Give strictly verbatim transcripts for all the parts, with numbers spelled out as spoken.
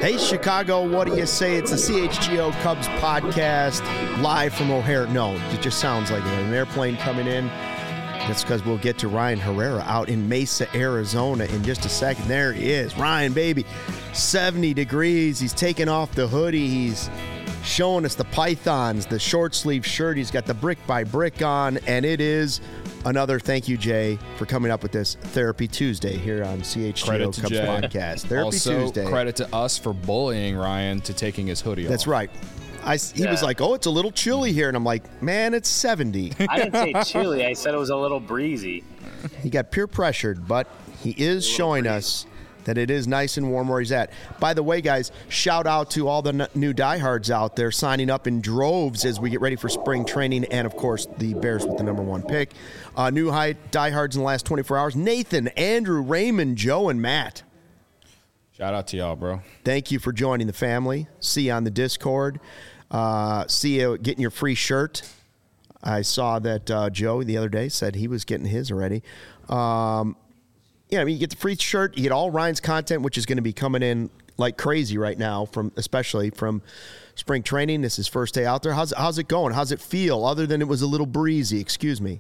Hey, Chicago, what do you say? It's the C H G O Cubs podcast live from O'Hare. No, it just sounds like an airplane coming in. That's because we'll get to Ryan Herrera out in Mesa, Arizona in just a second. There he is. Ryan, baby, seventy degrees. He's taking off the hoodie. He's showing us the pythons, the short sleeve shirt. He's got the brick by brick on, and it is another thank you, Jay, for coming up with this Therapy Tuesday here on C H G O Cubs Jay. podcast. Therapy also, Tuesday. Credit to us for bullying Ryan to taking his hoodie off. That's right. I, he Yeah. was like, oh, it's a little chilly here. And I'm like, man, it's seventy. I didn't say chilly. I said it was a little breezy. He got peer pressured, but he is showing us that it is nice and warm where he's at. By the way, guys, shout out to all the n- new diehards out there signing up in droves as we get ready for spring training, and, of course, the Bears with the number one pick. Uh, new high diehards in the last twenty-four hours, Nathan, Andrew, Raymond, Joe, and Matt. Shout out to y'all, bro. Thank you for joining the family. See you on the Discord. Uh, see you getting your free shirt. I saw that uh, Joe the other day said he was getting his already. Um, yeah, I mean, you get the free shirt. You get all Ryan's content, which is going to be coming in like crazy right now, from especially from spring training. This is his first day out there. How's, how's it going? How's it feel, other than it was a little breezy? Excuse me.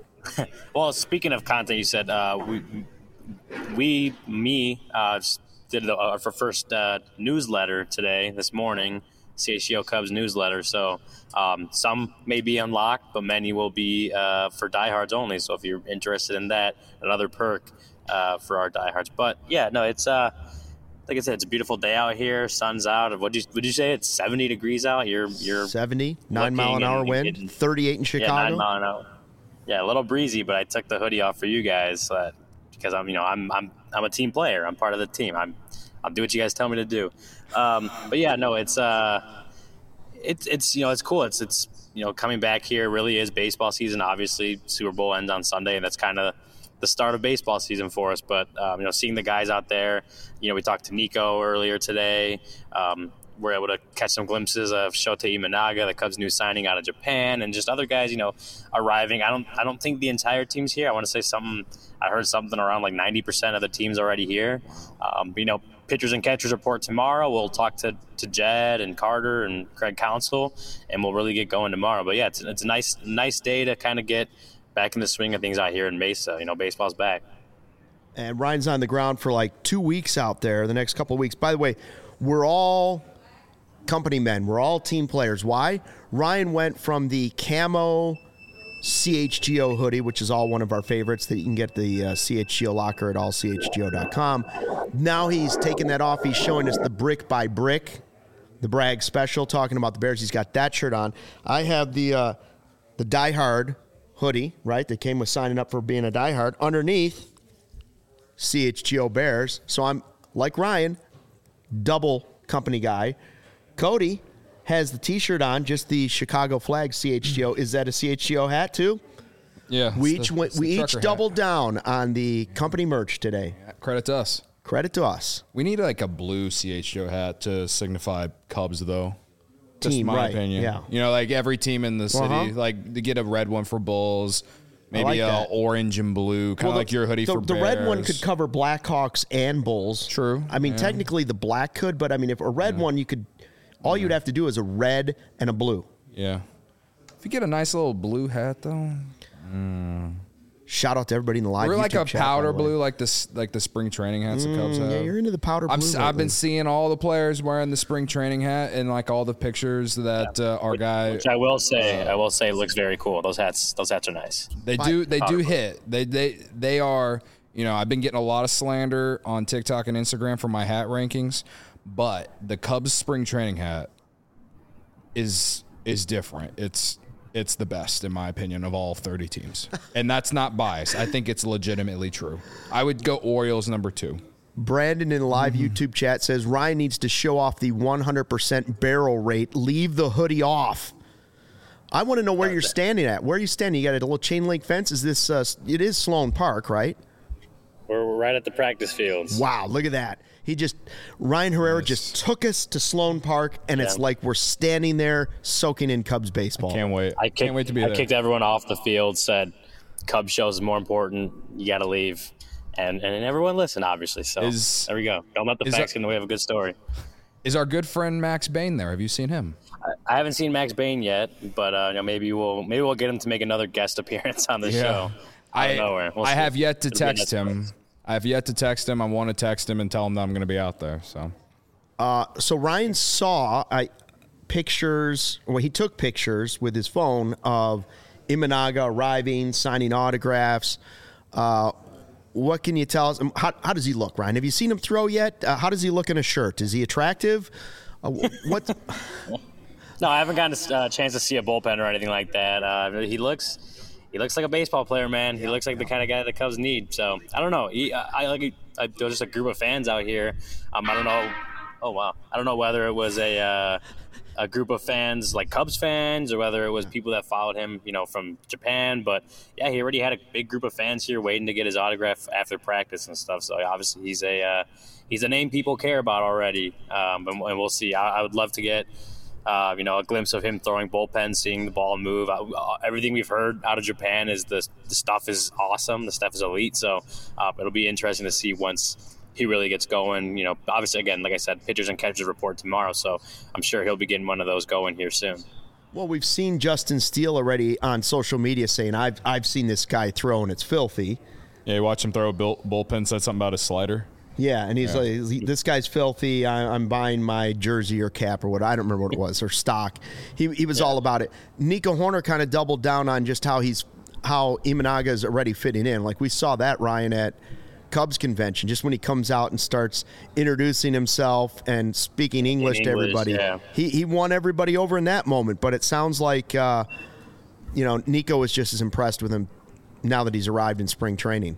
Well, speaking of content, you said uh, we, we, me, uh, did the, our first uh, newsletter today, this morning, C H G O Cubs newsletter. So um, some may be unlocked, but many will be uh, for diehards only. So if you're interested in that, another perk uh, for our diehards. But yeah, no, it's uh, like I said, it's a beautiful day out here. Sun's out. What did you, would you say? It's seventy degrees out. You're you're seventy, nine mile an hour and wind, getting- thirty-eight in Chicago. Yeah, nine mile an hour. Yeah, a little breezy, but I took the hoodie off for you guys uh, because I'm, you know, I'm I'm I'm a team player. I'm part of the team. I'm I'll do what you guys tell me to do. Um, but yeah, no, it's uh, it's it's you know, it's cool. It's it's you know, coming back here really is baseball season. Obviously, Super Bowl ends on Sunday, and that's kind of the start of baseball season for us. But um, you know, seeing the guys out there, you know, we talked to Nico earlier today. Um, we're able to catch some glimpses of Shota Imanaga, the Cubs' new signing out of Japan, and just other guys, you know, arriving. I don't, I don't think the entire team's here. I want to say something. I heard something around like ninety percent of the team's already here. Um, you know, pitchers and catchers report tomorrow. We'll talk to, to Jed and Carter and Craig Counsell, and we'll really get going tomorrow. But yeah, it's it's a nice nice day to kind of get back in the swing of things out here in Mesa. You know, baseball's back. And Ryan's on the ground for like two weeks out there, the next couple of weeks. By the way, we're all company men. We're all team players. Why? Ryan went from the camo C H G O hoodie, which is all one of our favorites that you can get the uh, C H G O locker at all C H G O dot com. Now he's taking that off. He's showing us the brick by brick, the Bragg special, talking about the Bears. He's got that shirt on. I have the uh, the Die Hard hoodie, right, that came with signing up for being a diehard. Underneath, C H G O Bears. So I'm, like Ryan, double company guy. Cody has the T-shirt on, just the Chicago flag C H G O. Is that a C H G O hat too? Yeah. We it's each the- went, it's the we each trucker hat. doubled down on the company merch today. Credit to us. Credit to us. We need like a blue C H G O hat to signify Cubs, though. Just Team, my right, opinion. yeah. You know, like every team in the city, Uh-huh. like to get a red one for Bulls, maybe like a that. orange and blue, kind of the- like your hoodie the, for the Bears. red one could cover Blackhawks and Bulls. True, I mean, yeah. technically the black could, but I mean, if a red one, you could. All you'd have to do is a red and a blue. Yeah. If you get a nice little blue hat, though. Shout out to everybody in the live We're like YouTube a chat, by powder the way. blue, like this, like the spring training hats the Cubs have. Yeah, you're into the powder blue. I'm, s- I've been lately. seeing all the players wearing the spring training hat and like all the pictures that uh, our guy. Which I will say, I will say, looks very cool. Those hats, those hats are nice. They do, they do Powder blue. hit. They, they, they are. You know, I've been getting a lot of slander on TikTok and Instagram for my hat rankings, but the Cubs spring training hat is is different. It's it's the best in my opinion of all thirty teams, and that's not biased. I think it's legitimately true. I would go Orioles number two. Brandon in the live Mm-hmm. YouTube chat says Ryan needs to show off the one hundred percent barrel rate. Leave the hoodie off. I want to know where you're standing at. Where are you standing? You got a little chain link fence? Is this, uh, it is Sloan Park, right? We're, we're right at the practice fields. Wow, look at that. He just, Ryan Herrera Nice. just took us to Sloan Park, and it's Yeah. like we're standing there soaking in Cubs baseball. Can't wait. I kicked, Can't wait to be I there. kicked everyone off the field, said Cubs shows is more important. You got to leave. And and everyone listened, obviously. So Is- there we go. Don't let the is facts that- get in the way of a good story. Is our good friend Max Bain there? Have you seen him? I, I haven't seen Max Bain yet, but uh, you know, maybe we'll maybe we'll get him to make another guest appearance on the Yeah. show. I We'll I have yet to It'll be a text nice him. place. I have yet to text him. I want to text him and tell him that I'm going to be out there. So Uh, so Ryan saw I, pictures, well, he took pictures with his phone of Imanaga arriving, signing autographs. Uh, what can you tell us? Um, How, how does he look, Ryan? Have you seen him throw yet? Uh, how does he look in a shirt? Is he attractive? Uh, what? No, I haven't gotten a uh, chance to see a bullpen or anything like that. Uh, he looks, he looks like a baseball player, man. He looks like the kind of guy the Cubs need. So I don't know. He, I, I like. I, there's just a group of fans out here. Um, I don't know. Oh wow. I don't know whether it was a uh, a group of fans like Cubs fans or whether it was people that followed him, you know, from Japan. But yeah, he already had a big group of fans here waiting to get his autograph after practice and stuff. So obviously he's a uh, he's a name people care about already. Um, and, and we'll see. I, I would love to get. Uh, you know, a glimpse of him throwing bullpen, seeing the ball move. Uh, everything we've heard out of Japan is the, the stuff is awesome. The stuff is elite. So uh, it'll be interesting to see once he really gets going. You know, obviously, again, like I said, pitchers and catchers report tomorrow. So I'm sure he'll be getting one of those going here soon. Well, we've seen Justin Steele already on social media saying, I've, I've seen this guy throw and it's filthy. yeah, you watch him throw a bull, bullpen. Said something about his slider. Yeah, and he's Yeah. like, this guy's filthy. I, I'm buying my jersey or cap or what. I don't remember what it was, or stock. He he was Yeah. all about it. Nico Horner kind of doubled down on just how he's how Imanaga is already fitting in. Like we saw that, Ryan, at Cubs convention, just when he comes out and starts introducing himself and speaking English, In to English, everybody. yeah. He he won everybody over in that moment. But it sounds like uh, you know Nico is just as impressed with him now that he's arrived in spring training.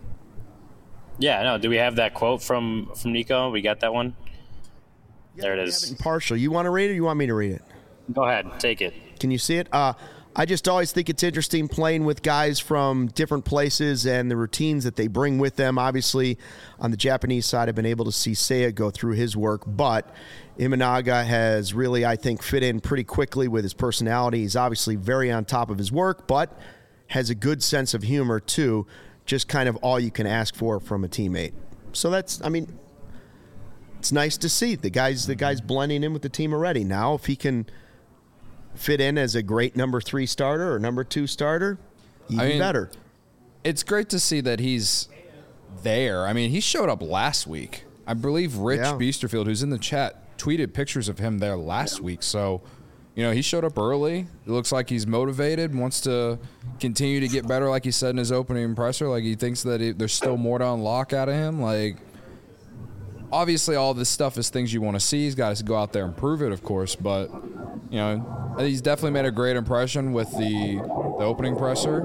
Yeah, no. Do we have that quote from from Nico? We got that one. There it We have is. it in partial. You want to read it or you want me to read it? Go ahead, take it. Can you see it? Uh, I just always think it's interesting playing with guys from different places and the routines that they bring with them. Obviously, on the Japanese side, I've been able to see Seiya go through his work, but Imanaga has really, I think, fit in pretty quickly with his personality. He's obviously very on top of his work, but has a good sense of humor, too. Just kind of all you can ask for from a teammate. So that's, I mean, it's nice to see. The guy's, the guy's blending in with the team already. Now, if he can fit in as a great number three starter or number two starter, even I mean, better. It's great to see that he's there. I mean, he showed up last week. I believe Rich Yeah. Beasterfield, who's in the chat, tweeted pictures of him there last week. So, you know, he showed up early. It looks like he's motivated, wants to continue to get better, like he said in his opening presser. Like, he thinks that he, there's still more to unlock out of him. Like, obviously, all this stuff is things you want to see. He's got to go out there and prove it, of course. But, you know, he's definitely made a great impression with the, the opening presser.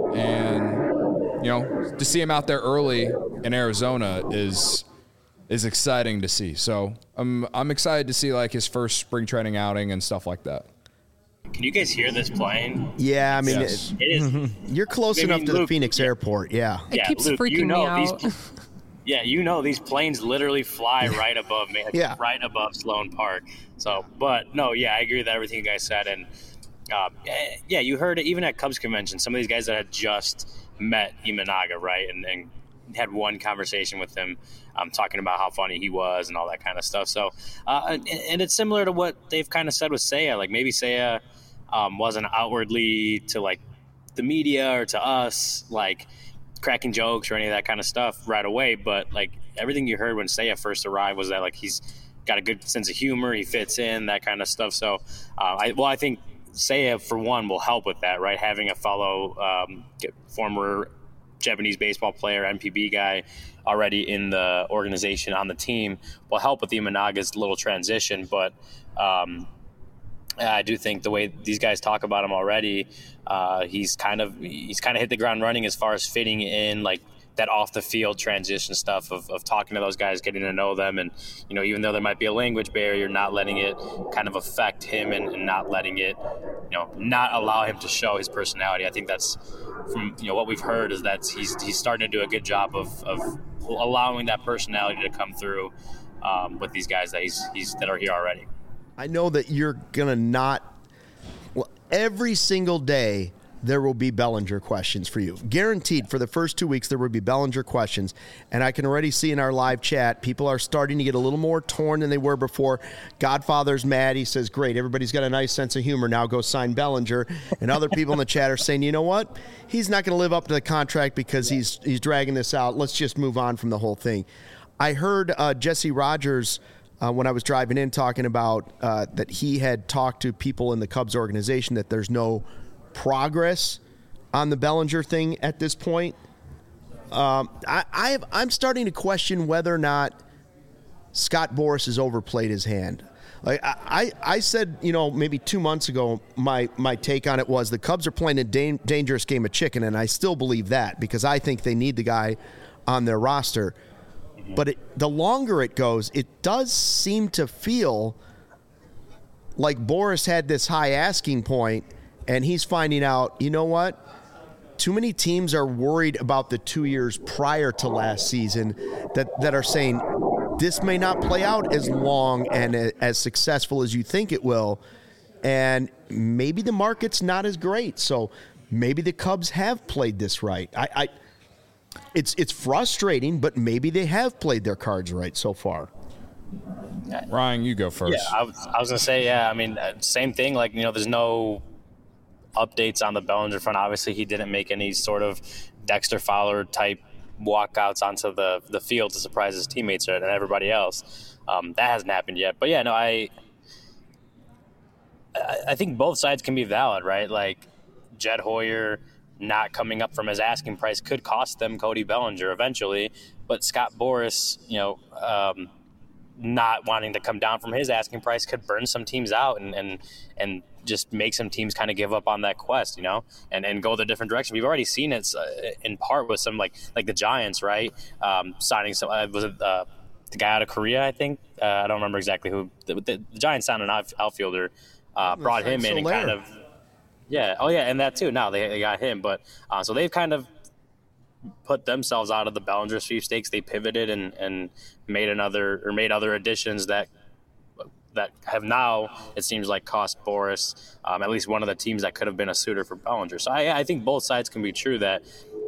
And, you know, to see him out there early in Arizona is is exciting to see. So I'm I'm excited to see like his first spring training outing and stuff like that. Can you guys hear this playing? Yeah, I mean, Yes. It is. it- you're close I mean, enough to the Luke, Phoenix yeah. airport. Yeah. It Yeah, keeps Luke, freaking you know me out. these- Yeah, you know these planes literally fly right above me, like, Yeah. right above Sloan Park. So, but no, yeah, I agree with everything you guys said, and uh, yeah, you heard it even at Cubs convention. Some of these guys that had just met Imanaga, right, and, and had one conversation with him, um, talking about how funny he was and all that kind of stuff. So, uh, and, and it's similar to what they've kind of said with Seiya. Like maybe Seiya um, wasn't outwardly to like the media or to us, like cracking jokes or any of that kind of stuff right away, but like everything you heard when Seiya first arrived was that like he's got a good sense of humor, he fits in, that kind of stuff. So uh, I well I think Seiya for one will help with that, right? Having a fellow um, former Japanese baseball player, M P B guy already in the organization on the team will help with the Imanaga's little transition. But um, I do think the way these guys talk about him already, uh, he's kind of he's kind of hit the ground running as far as fitting in, like that off the field transition stuff of, of talking to those guys, getting to know them, and you know, even though there might be a language barrier, not letting it kind of affect him and, and not letting it, you know, not allow him to show his personality. I think that's from you know what we've heard is that he's he's starting to do a good job of, of allowing that personality to come through um, with these guys that he's he's that are here already. I, I know that you're going to not – well, every single day there will be Bellinger questions for you. Guaranteed for the first two weeks there will be Bellinger questions. And I can already see in our live chat, people are starting to get a little more torn than they were before. Godfather's mad. He says, great, everybody's got a nice sense of humor. Now go sign Bellinger. And other people in the chat are saying, you know what? He's not going to live up to the contract because he's he's dragging this out. Let's just move on from the whole thing. I heard uh, Jesse Rogers, uh, when I was driving in, talking about uh, that he had talked to people in the Cubs organization that there's no progress on the Bellinger thing at this point. Um, I, I have, I'm starting to question whether or not Scott Boras has overplayed his hand. Like I, I, I said, you know, maybe two months ago, my, my take on it was the Cubs are playing a da- dangerous game of chicken, and I still believe that because I think they need the guy on their roster. But it, the longer it goes, it does seem to feel like Boras had this high asking point, and he's finding out, you know what? Too many teams are worried about the two years prior to last season that, that are saying this may not play out as long and as successful as you think it will. And maybe the market's not as great. So maybe the Cubs have played this right. I, I it's it's frustrating, but maybe they have played their cards right so far. Ryan, you go first. Yeah, I was, I was going to say, yeah, I mean, same thing. Like, you know, there's no updates on the Bellinger front. Obviously, he didn't make any sort of Dexter Fowler type walkouts onto the, the field to surprise his teammates and everybody else. Um, that hasn't happened yet. But, yeah, no, I, I think both sides can be valid, right? Like, Jed Hoyer not coming up from his asking price could cost them Cody Bellinger eventually. But Scott Boras, you know, um, not wanting to come down from his asking price could burn some teams out and and, and just make some teams kind of give up on that quest, you know, and, and go the different direction. We've already seen it uh, in part with some like like the Giants, right? Um, signing some uh, was it uh, the guy out of Korea, I think. Uh, I don't remember exactly who. The, the, the Giants signed an out, outfielder, uh, brought him in and kind of yeah, oh yeah, and that too. Now they, they got him, but uh, so they've kind of put themselves out of the Bellinger sweepstakes. They pivoted and, and made another or made other additions that that have now, it seems like, cost Boras um, at least one of the teams that could have been a suitor for Bellinger. So I, I think both sides can be true that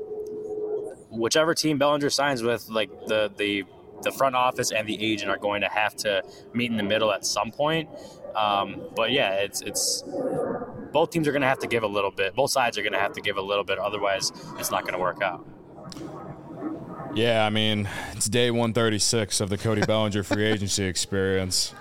whichever team Bellinger signs with, like the the the front office and the agent are going to have to meet in the middle at some point. Um, but yeah, it's it's both teams are going to have to give a little bit. Both sides are going to have to give a little bit. Otherwise, it's not going to work out. Yeah, I mean, it's day one thirty-six of the Cody Bellinger free agency experience.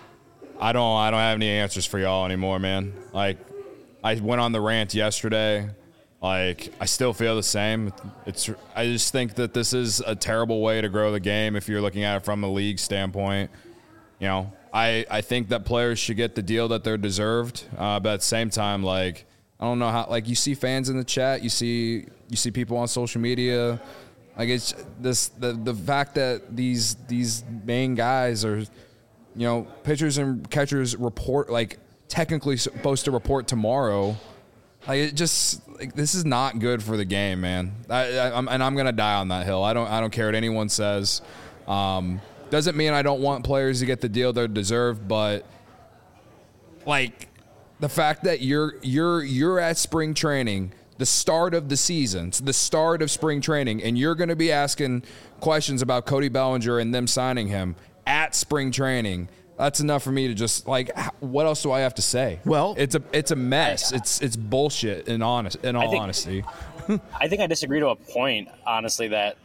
I don't I don't have any answers for y'all anymore, man. Like, I went on the rant yesterday. Like, I still feel the same. It's I just think that this is a terrible way to grow the game if you're looking at it from a league standpoint. You know, I, I think that players should get the deal that they're deserved. Uh, but at the same time, like, I don't know how, like, you see fans in the chat, you see you see people on social media. Like, it's this the the fact that these these main guys are, you know, pitchers and catchers report, like, technically supposed to report tomorrow. Like, it just, like, this is not good for the game, man. I, I, I'm, and I'm gonna die on that hill. I don't I don't care what anyone says. Um, doesn't mean I don't want players to get the deal they deserve, but, like, the fact that you're you're you're at spring training, the start of the season, the start of spring training, and you're going to be asking questions about Cody Bellinger and them signing him at spring training. That's enough for me to just, like, what else do I have to say? Well, it's a it's a mess. It's it's bullshit. In honest, in all I think, honesty, I think I disagree to a point, honestly, that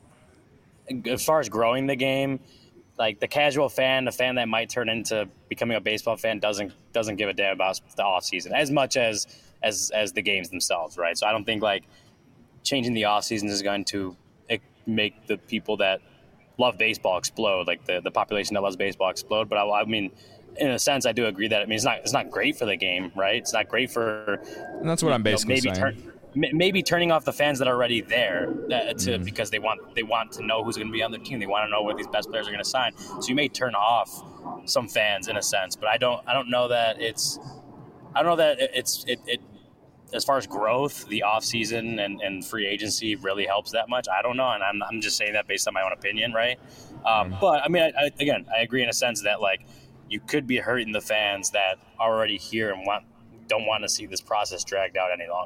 as far as growing the game, like, the casual fan, the fan that might turn into becoming a baseball fan, doesn't doesn't give a damn about the off season as much as as as the games themselves, right? So I don't think, like, changing the off season is going to make the people that love baseball explode, like the, the population that loves baseball explode. But I, I mean, in a sense, I do agree that, I mean, it's not it's not great for the game, right? It's not great for. And that's what I'm basically know, maybe saying. Turn, maybe turning off the fans that are already there uh, to mm. because they want they want to know who's going to be on their team. They want to know where these best players are going to sign. So you may turn off some fans in a sense, but I don't I don't know that it's I don't know that it's it. it as far as growth, the offseason and, and free agency really helps that much. I don't know, and I'm I'm just saying that based on my own opinion, right? Um, but, I mean, I, I, again, I agree in a sense that, like, you could be hurting the fans that are already here and want don't want to see this process dragged out any longer.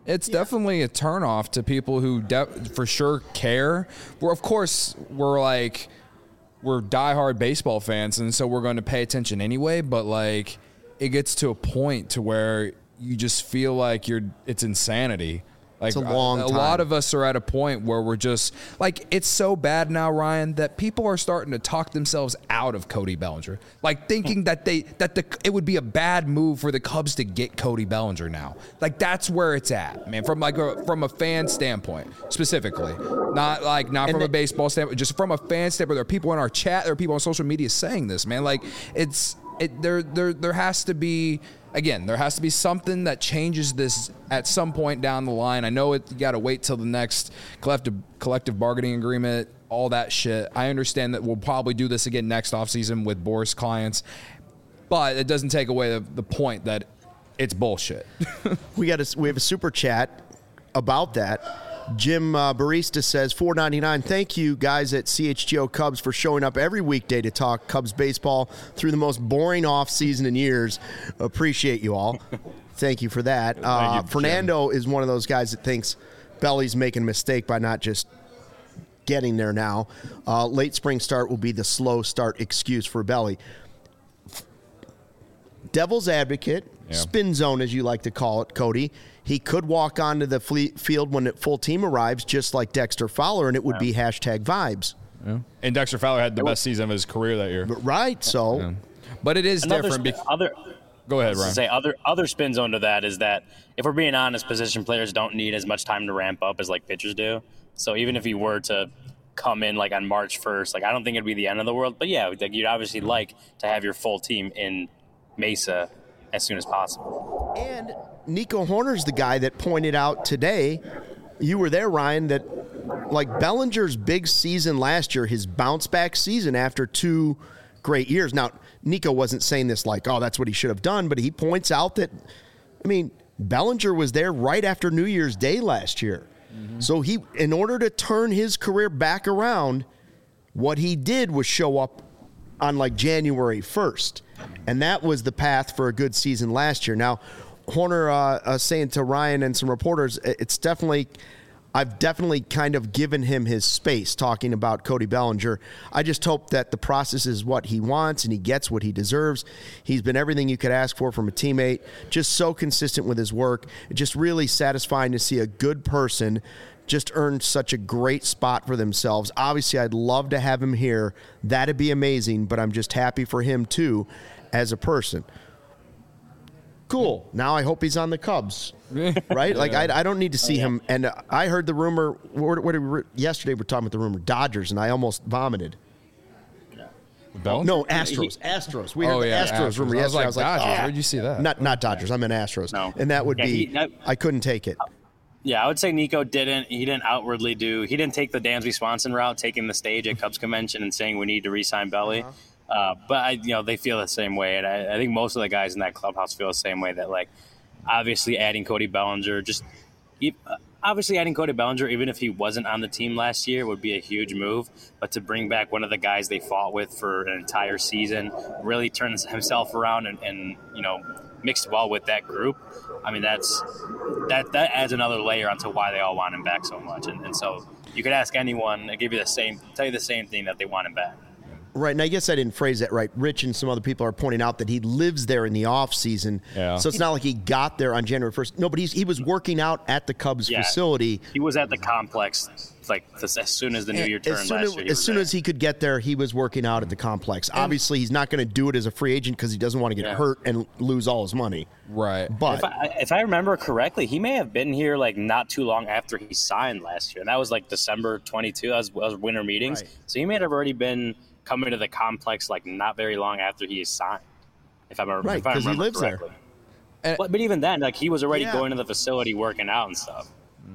It's yeah. definitely a turnoff to people who de- for sure care. We're, of course, we're like, we're diehard baseball fans, and so we're going to pay attention anyway, but like, it gets to a point to where you just feel like you're, it's insanity. Like it's a long a, a time. lot of us are at a point where we're just like, it's so bad now, Ryan, that people are starting to talk themselves out of Cody Bellinger, like thinking that they that the it would be a bad move for the Cubs to get Cody Bellinger now. Like that's where it's at, man. From like a, from a fan standpoint, specifically, not like not and from the, a baseball standpoint, just from a fan standpoint. There are people in our chat, there are people on social media saying this, man. Like it's it there there there has to be. Again, there has to be something that changes this at some point down the line. I know it, you got to wait till the next collective collective bargaining agreement, all that shit. I understand that we'll probably do this again next offseason with Boris clients, but it doesn't take away the, the point that it's bullshit. we got a, we have a super chat about that. Jim uh, Barista says, four ninety-nine. Thank you guys at C H G O Cubs for showing up every weekday to talk Cubs baseball through the most boring off season in years. Appreciate you all. Thank you for that. Uh, you, Fernando Jim. is one of those guys that thinks Belly's making a mistake by not just getting there now. Uh, late spring start will be the slow start excuse for Belly. Devil's advocate, yeah. spin zone as you like to call it, Cody. He could walk onto the field when the full team arrives, just like Dexter Fowler, and it would yeah. be hashtag vibes. Yeah. And Dexter Fowler had the it best was, season of his career that year. Right, so. Yeah. But it is Another different. Sp- because, other, go ahead, Ryan. Say other other spin zone to that is that if we're being honest, position players don't need as much time to ramp up as like pitchers do. So even if he were to come in like on March first, like I don't think it'd be the end of the world. But yeah, like you'd obviously like to have your full team in Mesa as soon as possible. And Nico Hoerner's the guy that pointed out today, you were there, Ryan, that like Bellinger's big season last year, his bounce back season after two great years. Now, Nico wasn't saying this like, oh, that's what he should have done, but he points out that, I mean, Bellinger was there right after New Year's Day last year. Mm-hmm. So he, in order to turn his career back around, what he did was show up on like January first. And that was the path for a good season last year. Now, Hoerner uh, uh, saying to Ryan and some reporters, it's definitely, I've definitely kind of given him his space talking about Cody Bellinger. I just hope that the process is what he wants and he gets what he deserves. He's been everything you could ask for from a teammate, just so consistent with his work. It's just really satisfying to see a good person just earn such a great spot for themselves. Obviously, I'd love to have him here. That'd be amazing, but I'm just happy for him, too, as a person. Cool. Now I hope he's on the Cubs, right? Like, I, I don't need to see him. And I heard the rumor, what, what, what, yesterday we were talking about the rumor, Dodgers, and I almost vomited. Bellinger? No, Astros. Astros. We heard oh, the yeah, Astros, Astros rumor I yesterday. was like, I was like, Dodgers. oh. Where'd you see that? Not, not Dodgers. I meant Astros. No. And that would yeah, be, he, I, I couldn't take it. Yeah, I would say Nico didn't. He didn't outwardly do. He didn't take the Dansby Swanson route, taking the stage at Cubs convention and saying we need to re-sign Belly. Uh-huh. Uh, but I, you know, they feel the same way, and I, I think most of the guys in that clubhouse feel the same way. That like, obviously, adding Cody Bellinger, just obviously adding Cody Bellinger, even if he wasn't on the team last year, would be a huge move. But to bring back one of the guys they fought with for an entire season, really turn himself around and, and you know, mixed well with that group. I mean, that's that that adds another layer onto why they all want him back so much. And, and so you could ask anyone, they give you the same, tell you the same thing, that they want him back. Right, and I guess I didn't phrase that right. Rich and some other people are pointing out that he lives there in the off season, yeah. so it's not like he got there on January first. No, but he's, he was working out at the Cubs yeah, facility. He was at the complex like as soon as the new year turned as soon last as, year. As soon there. as he could get there, he was working out at the complex. And obviously, he's not going to do it as a free agent because he doesn't want to get yeah. hurt and lose all his money. Right. But if I, if I remember correctly, he may have been here like not too long after he signed last year. And that was like December twenty-second. That was, that was winter meetings. Right. So he may have already been coming to the complex like not very long after he signed. If I remember, right, because he lives correctly. there. But, but even then, like he was already yeah. going to the facility working out and stuff.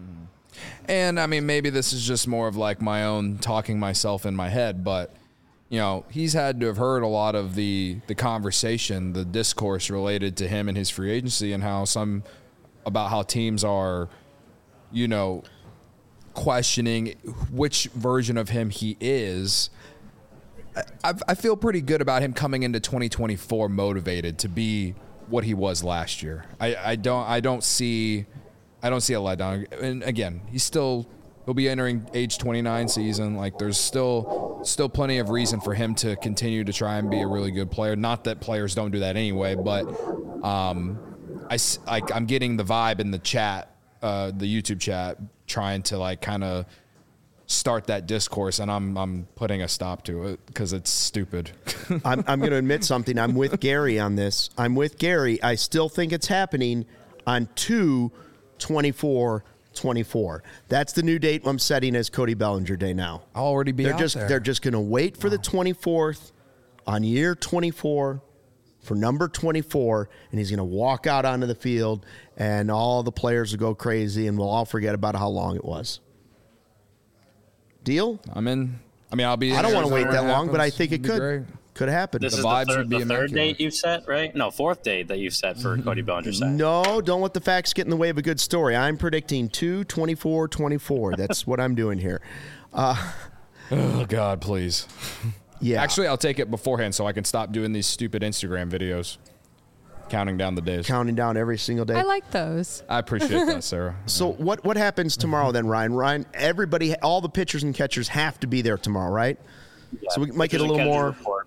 And I mean, maybe this is just more of like my own talking myself in my head, but you know, he's had to have heard a lot of the the conversation, the discourse related to him and his free agency, and how some about how teams are, you know, questioning which version of him he is. I, I feel pretty good about him coming into twenty twenty-four motivated to be what he was last year. I, I don't I don't see I don't see a letdown. And again, he's still he'll be entering age twenty-nine season. Like there's still still plenty of reason for him to continue to try and be a really good player. Not that players don't do that anyway, but um, I like I'm getting the vibe in the chat, uh, the YouTube chat, trying to like kind of start that discourse, and I'm I'm putting a stop to it because it's stupid. I'm I'm going to admit something. I'm with Gary on this. I'm with Gary. I still think it's happening on two twenty-four twenty-four. That's the new date I'm setting as Cody Bellinger Day now. I'll already be they're out just there. They're just going to wait for the twenty-fourth on year twenty-four for number twenty-four, and he's going to walk out onto the field, and all the players will go crazy, and we'll all forget about how long it was. Deal? I'm in. I mean, I'll be. I don't want to wait that long, happens. but I think it It'd be could great. could happen. This The is vibes the, third, would be the third immaculate. date you've set, right? No, fourth date that you've set for Cody Bellinger side. No, don't let the facts get in the way of a good story. I'm predicting two twenty-four twenty-four. That's what I'm doing here. Uh, Oh God, please. yeah. Actually, I'll take it beforehand so I can stop doing these stupid Instagram videos, counting down the days. Counting down every single day. I like those. I appreciate that, Sarah. So what what happens tomorrow then, Ryan? Ryan, everybody, all the pitchers and catchers have to be there tomorrow, right? Yeah, So we might get a pitchers and little catchers more, report.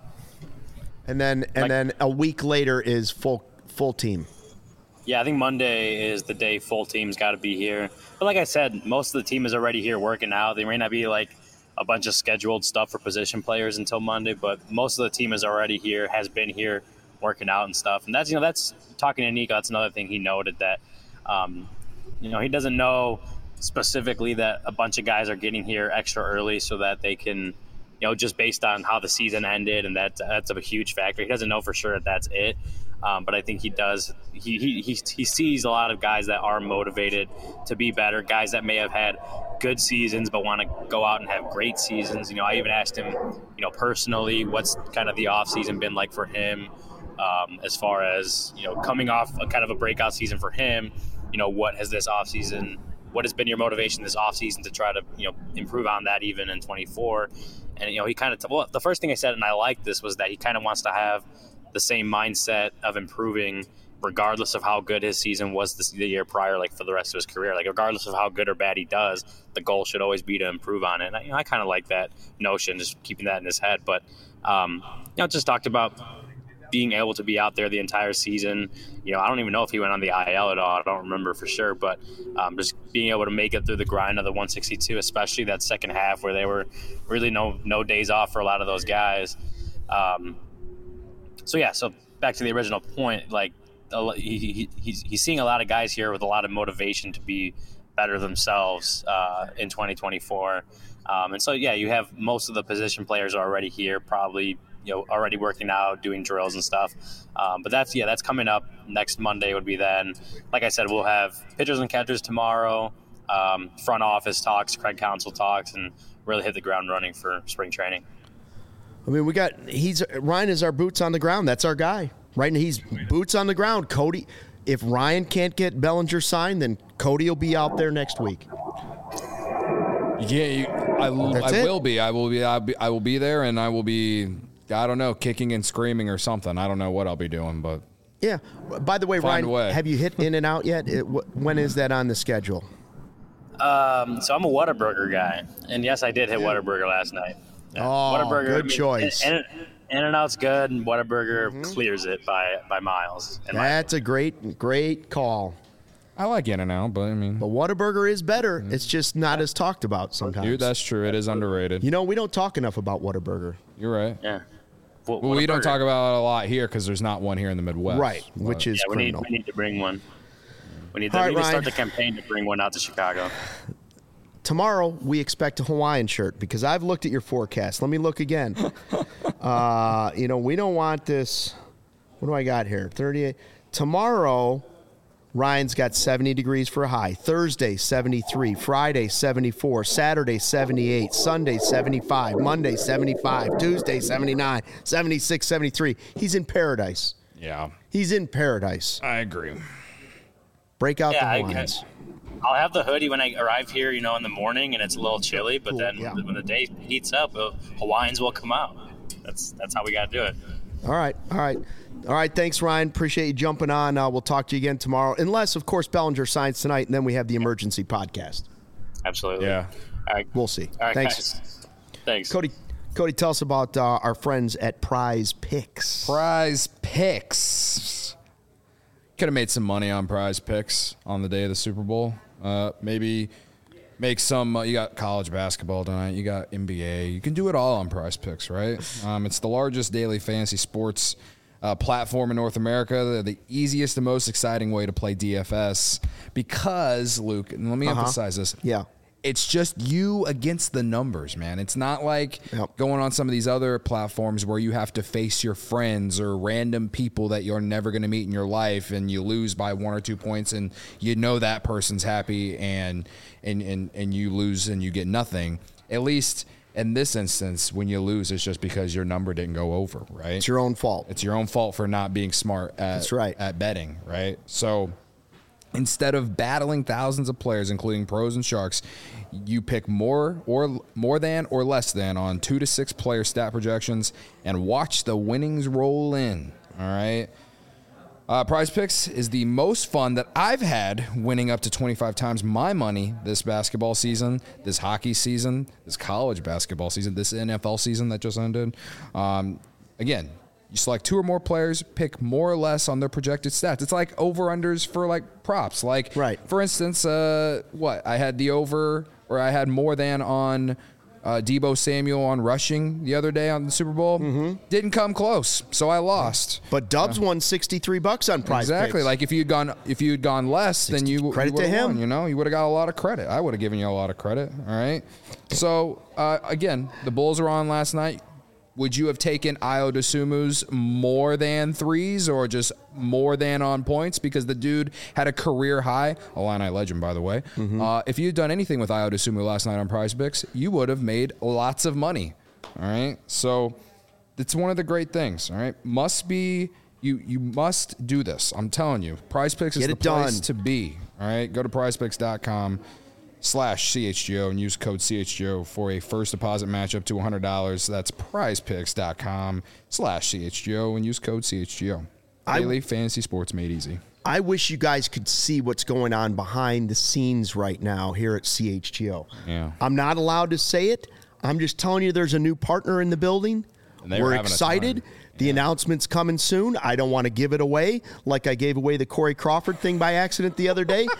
and then and Like- then a week later is full full team. Yeah, I think Monday is the day full team's got to be here. But like I said, most of the team is already here working out. They may not be like a bunch of scheduled stuff for position players until Monday, but most of the team is already here, has been here working out and stuff. And that's, you know, that's talking to Nico. That's another thing he noted that, um, you know, he doesn't know specifically that a bunch of guys are getting here extra early so that they can, you know, just based on how the season ended. And that, that's a huge factor. He doesn't know for sure that that's it. Um, but I think he does. He, he he he sees a lot of guys that are motivated to be better, guys that may have had good seasons but want to go out and have great seasons. You know, I even asked him, you know, personally, what's kind of the off season been like for him, um, as far as, you know, coming off a kind of a breakout season for him. You know, what has this off season? What has been your motivation this off season to try to, you know, improve on that even in twenty-four? And you know, he kind of t- well, the first thing I said, and I liked this, was that he kind of wants to have the same mindset of improving regardless of how good his season was this, the year prior, like for the rest of his career. Like regardless of how good or bad he does, the goal should always be to improve on it. And I, you know, I kind of like that notion, just keeping that in his head. But, um, you know, just talked about being able to be out there the entire season. You know, I don't even know if he went on the I L at all. I don't remember for sure. But um, just being able to make it through the grind of the one sixty-two, especially that second half where they were really no no days off for a lot of those guys. Um, so, yeah, so back to the original point, like he, he, he's, he's seeing a lot of guys here with a lot of motivation to be better themselves uh, in twenty twenty-four. Um, and so, yeah, you have most of the position players already here, probably, you know, already working out, doing drills and stuff. Um, but that's, yeah, that's coming up next Monday would be then. Like I said, we'll have pitchers and catchers tomorrow, um, front office talks, Craig Counsell talks, and really hit the ground running for spring training. I mean, we got he's Ryan is our boots on the ground. That's our guy, right? And he's boots on the ground. Cody, if Ryan can't get Bellinger signed, then Cody will be out there next week. Yeah, you, I, will- That's I it. will be. I will be. I'll be. I will be there, and I will be. I don't know, kicking and screaming or something. I don't know what I'll be doing, but Yeah. By the way, Find a way. Ryan, have you hit In and Out yet? It, wh- when is that on the schedule? Um, so I'm a Whataburger guy, and yes, I did hit Whataburger last night. Yeah. Oh, Whataburger, good I mean, choice. In, in and Out's good, and Whataburger clears it by by miles. in my That's a great, great call. I like In and Out. But I mean, But Whataburger is better. It's just not as talked about sometimes. dude, that's true. It is underrated. You know, we don't talk enough about Whataburger. You're right. Yeah. Wh- Well, we don't Whataburger. talk about it a lot here because there's not one here in the Midwest. Right, which is Yeah, we need, criminal. we need to bring one. We need to, All right, we need to Ryan. start the campaign to bring one out to Chicago. Tomorrow, we expect a Hawaiian shirt because I've looked at your forecast. Let me look again. uh, you know, we don't want this. What do I got here? thirty-eight. Tomorrow, Ryan's got seventy degrees for a high. Thursday, seventy-three. Friday, seventy-four. Saturday, seventy-eight. Sunday, seventy-five. Monday, seventy-five. Tuesday, seventy-nine. seventy-six, seventy-three. He's in paradise. Yeah, He's in paradise. I agree. Break out Yeah, I- the Hawaiians. I'll have the hoodie when I arrive here, you know, in the morning, and it's a little chilly. But Cool, then yeah. when the day heats up, uh, Hawaiians will come out. That's that's how we got to do it. All right. All right. All right. Thanks, Ryan. Appreciate you jumping on. Uh, we'll talk to you again tomorrow. Unless, of course, Bellinger signs tonight, and then we have the emergency podcast. Absolutely. Yeah. All right. We'll see. All right, Thanks. guys. Thanks. Cody, Cody, tell us about uh, our friends at Prize Picks. Prize Picks. Could have made some money on Prize Picks on the day of the Super Bowl. Uh, maybe make some. Uh, you got college basketball tonight. You got N B A. You can do it all on Prize Picks, right? Um, it's the largest daily fantasy sports uh, platform in North America. They're the easiest and most exciting way to play D F S because, Luke, and let me Uh-huh. emphasize this. Yeah. It's just you against the numbers, man. It's not like Yep. going on some of these other platforms where you have to face your friends or random people that you're never going to meet in your life, and you lose by one or two points, and you know that person's happy, and and and, and you lose and you get nothing. At least in this instance, when you lose, it's just because your number didn't go over, right? It's your own fault. It's your own fault for not being smart at, That's right. at betting, right? So instead of battling thousands of players, including pros and sharks, you pick more or more than or less than on two to six player stat projections and watch the winnings roll in. All right. Uh, Prize Picks is the most fun that I've had, winning up to twenty-five times my money this basketball season, this hockey season, this college basketball season, this N F L season that just ended. Um, again, you select two or more players, pick more or less on their projected stats. It's like over-unders for like props. Like, Right. for instance, uh, what? I had the over, or I had more than on uh, Deebo Samuel on rushing the other day on the Super Bowl. Mm-hmm. Didn't come close, so I lost. But Dubs won sixty-three bucks on Prize Exactly. Picks. Like if you'd gone if you'd gone less, then you Credit you to would've him. won, you know, you would have got a lot of credit. I would have given you a lot of credit. All right. So uh, again, the Bulls were on last night. Would you have taken Ayo Dosunmu's more than threes or just more than on points because the dude had a career high, Illini legend, by the way. Mm-hmm. Uh, if you'd done anything with Ayo Dosunmu last night on Prize Picks, you would have made lots of money. All right. So it's one of the great things. All right. Must be you. You must do this. I'm telling you. Prize Picks is Get the it done. place to be. All right. Go to prize picks dot com. slash C H G O and use code C H G O for a first deposit match up to one hundred dollars. That's prize picks dot com slash C H G O and use code C H G O. Daily fantasy sports made easy. I wish you guys could see what's going on behind the scenes right now here at C H G O. Yeah. I'm not allowed to say it. I'm just telling you there's a new partner in the building. And they were We're having a excited. time. The Yeah. announcement's coming soon. I don't want to give it away like I gave away the Corey Crawford thing by accident the other day.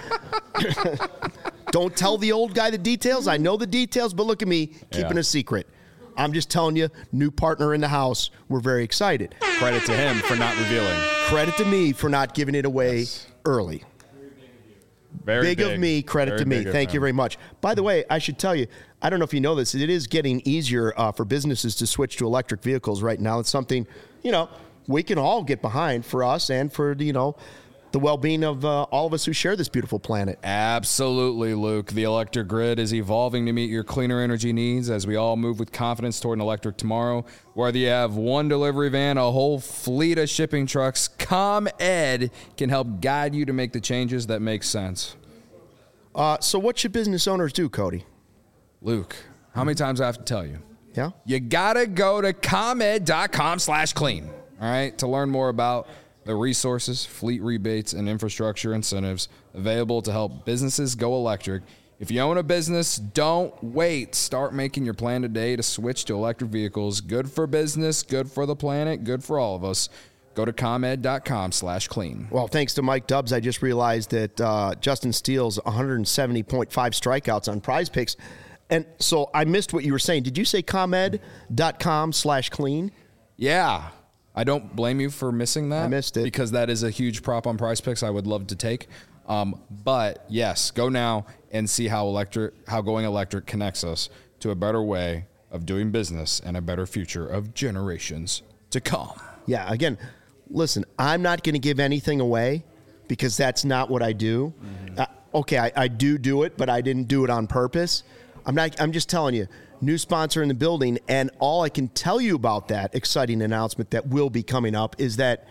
Don't tell the old guy the details. I know the details, but look at me keeping Yeah. a secret. I'm just telling you, new partner in the house. We're very excited. Credit to him for not revealing. Credit to me for not giving it away early. Very Big, of me, credit Very to me. big of Thank you him. very much. By the way, I should tell you, I don't know if you know this, it is getting easier uh, for businesses to switch to electric vehicles right now. It's something, you know, we can all get behind for us and for, you know, the well-being of uh, all of us who share this beautiful planet. Absolutely, Luke. The electric grid is evolving to meet your cleaner energy needs as we all move with confidence toward an electric tomorrow. Whether you have one delivery van, a whole fleet of shipping trucks, ComEd can help guide you to make the changes that make sense. Uh, so what should business owners do, Cody? Luke, how many times do I have to tell you? Yeah? You gotta go to comed dot com slash clean, all right, to learn more about the resources, fleet rebates, and infrastructure incentives available to help businesses go electric. If you own a business, don't wait. Start making your plan today to switch to electric vehicles. Good for business, good for the planet, good for all of us. Go to comed dot com slash clean. Well, thanks to Mike Dubs, I just realized that uh, Justin Steele's one hundred seventy point five strikeouts on Prize Picks. And so I missed what you were saying. Did you say comed dot com slash clean? Yeah. I don't blame you for missing that. I missed it. Because that is a huge prop on Prize Picks I would love to take. Um, but, yes, go now and see how electric, how going electric connects us to a better way of doing business and a better future of generations to come. Yeah, again, listen, I'm not going to give anything away because that's not what I do. Mm-hmm. Uh, okay, I, I do do it, but I didn't do it on purpose. I'm not. I'm just telling you, new sponsor in the building, and all I can tell you about that exciting announcement that will be coming up is that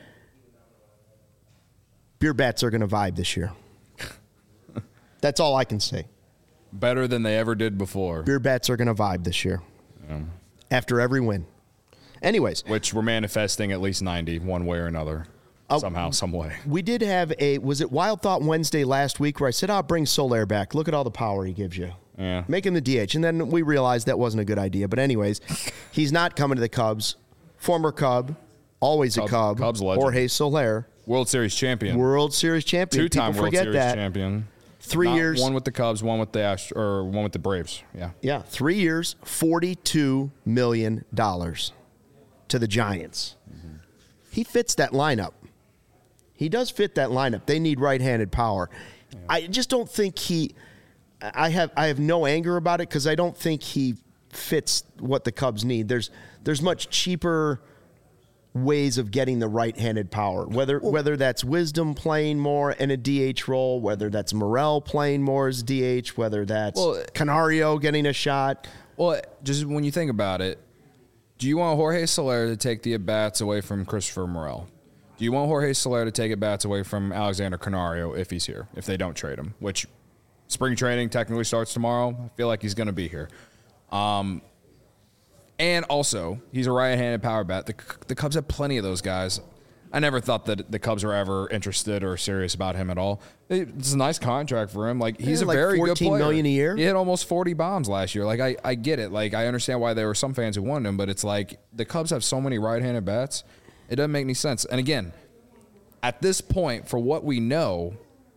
beer bats are going to vibe this year. That's all I can say. Better than they ever did before. Beer bats are going to vibe this year. Yeah. After every win. Anyways. Which we're manifesting at least ninety one way or another. Uh, somehow, some way. We did have a, was it Wild Thought Wednesday last week where I said, I'll bring Soler back. Look at all the power he gives you. Yeah. Make him the D H. And then we realized that wasn't a good idea. But anyways, he's not coming to the Cubs. Former Cub, always Cub, a Cub. Cubs legend. Jorge Soler. World Series champion. World Series champion. Two-time People World forget Series that. champion. Three Not years. One with the Cubs, one with the Ast- or one with the Braves. Yeah. Yeah, three years, forty-two million dollars to the Giants. Mm-hmm. He fits that lineup. He does fit that lineup. They need right-handed power. Yeah. I just don't think he I have I have no anger about it because I don't think he fits what the Cubs need. There's there's much cheaper ways of getting the right-handed power, whether well, whether that's Wisdom playing more in a D H role, whether that's Morel playing more as D H, whether that's well, Canario getting a shot. Well, just when you think about it, do you want Jorge Soler to take the at-bats away from Christopher Morel? Do you want Jorge Soler to take at-bats away from Alexander Canario if he's here, if they don't trade him, which spring training technically starts tomorrow. I feel like he's going to be here. Um, and also, he's a right-handed power bat. The, the Cubs have plenty of those guys. I never thought that the Cubs were ever interested or serious about him at all. It's a nice contract for him. Like he's yeah, a like very good player. fourteen million a year. He hit almost forty bombs last year. Like I, I get it. Like I understand why there were some fans who wanted him, but it's like the Cubs have so many right-handed bats. It doesn't make any sense. And again, at this point, for what we know,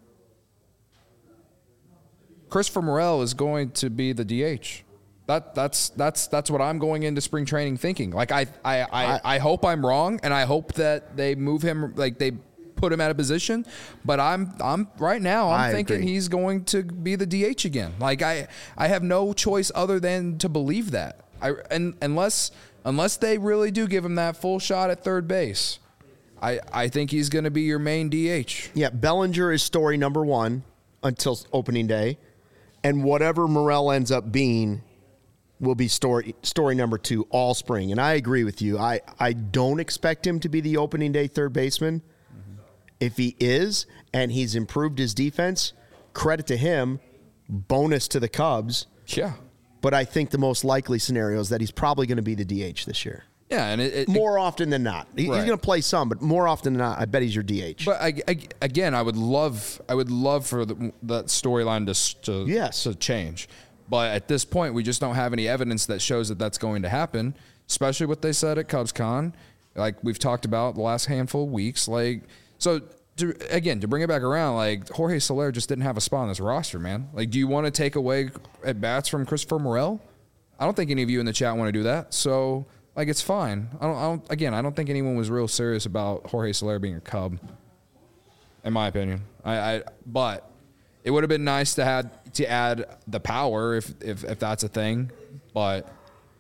Christopher Morel is going to be the D H. That that's that's that's what I'm going into spring training thinking. Like I I, I, I hope I'm wrong, and I hope that they move him, like they put him at a position. But I'm I'm right now I'm I thinking agree. he's going to be the D H again. Like I I have no choice other than to believe that. I and unless unless they really do give him that full shot at third base, I I think he's going to be your main D H. Yeah, Bellinger is story number one until opening day, and whatever Morel ends up being will be story story number two all spring. And I agree with you. I, I don't expect him to be the opening day third baseman. Mm-hmm. If he is, and he's improved his defense, credit to him, bonus to the Cubs. Yeah. But I think the most likely scenario is that he's probably going to be the D H this year. Yeah, and it, it, more often than not. He, right. He's going to play some, but more often than not, I bet he's your D H. But I, I, again, I would love, I would love for the, that storyline to to, yes. to change. But at this point, we just don't have any evidence that shows that that's going to happen, especially what they said at CubsCon, like we've talked about the last handful of weeks. Like, so to, again, to bring it back around, like Jorge Soler just didn't have a spot on this roster, man. Like, do you want to take away at bats from Christopher Morel? I don't think any of you in the chat want to do that. So, like, it's fine. I don't, I don't. Again, I don't think anyone was real serious about Jorge Soler being a Cub, in my opinion. I, I but. It would have been nice to have to add the power if if, if that's a thing, but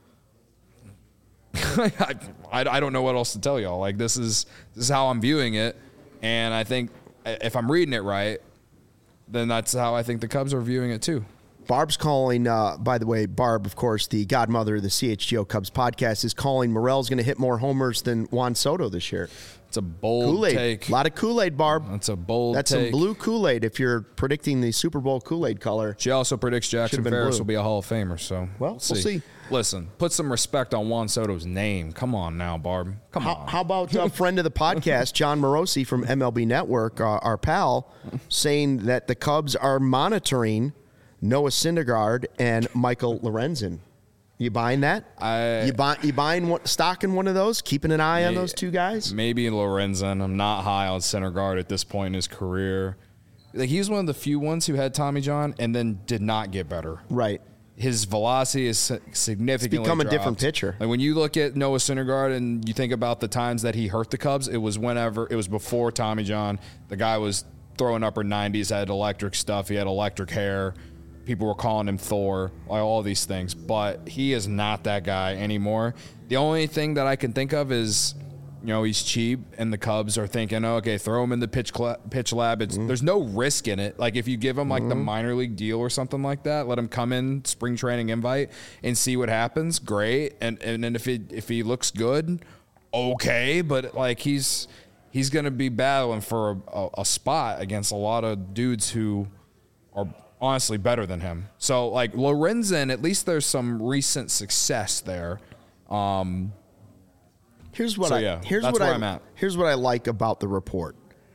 I, I I don't know what else to tell y'all. Like this is this is how I'm viewing it, and I think if I'm reading it right, then that's how I think the Cubs are viewing it too. Barb's calling, uh, by the way, Barb, of course, the godmother of the C H G O Cubs podcast, is calling Morel's going to hit more homers than Juan Soto this year. It's a bold Kool-Aid. take. A lot of Kool-Aid, Barb. That's a bold That's take. some blue Kool-Aid if you're predicting the Super Bowl Kool-Aid color. She also predicts Jackson Ferris will be a Hall of Famer. So well, we'll see. We'll see. Listen, put some respect on Juan Soto's name. Come on now, Barb. Come how, on. How about a friend of the podcast, John Morosi from M L B Network, uh, our pal, saying that the Cubs are monitoring Noah Syndergaard and Michael Lorenzen. You buying that? I, you buy you buying what, stock in one of those? Keeping an eye may, on those two guys? Maybe Lorenzen. I'm not high on Syndergaard at this point in his career. Like he was one of the few ones who had Tommy John and then did not get better. Right. His velocity is significantly it's become dropped. a different pitcher. Like when you look at Noah Syndergaard and you think about the times that he hurt the Cubs, it was whenever it was before Tommy John. The guy was throwing upper nineties, had electric stuff, he had electric hair. People were calling him Thor, like all these things, but he is not that guy anymore. The only thing that I can think of is, you know, he's cheap, and the Cubs are thinking, oh, okay, throw him in the pitch cl- pitch lab. It's, mm-hmm. There's no risk in it. Like if you give him like mm-hmm. the minor league deal or something like that, let him come in spring training invite and see what happens. Great, and and then if he if he looks good, okay, but like he's he's gonna be battling for a, a, a spot against a lot of dudes who are honestly better than him. So like Lorenzen, at least there's some recent success there. Um, Here's what So, I yeah, here's that's what where I I'm at. here's what I like about the report.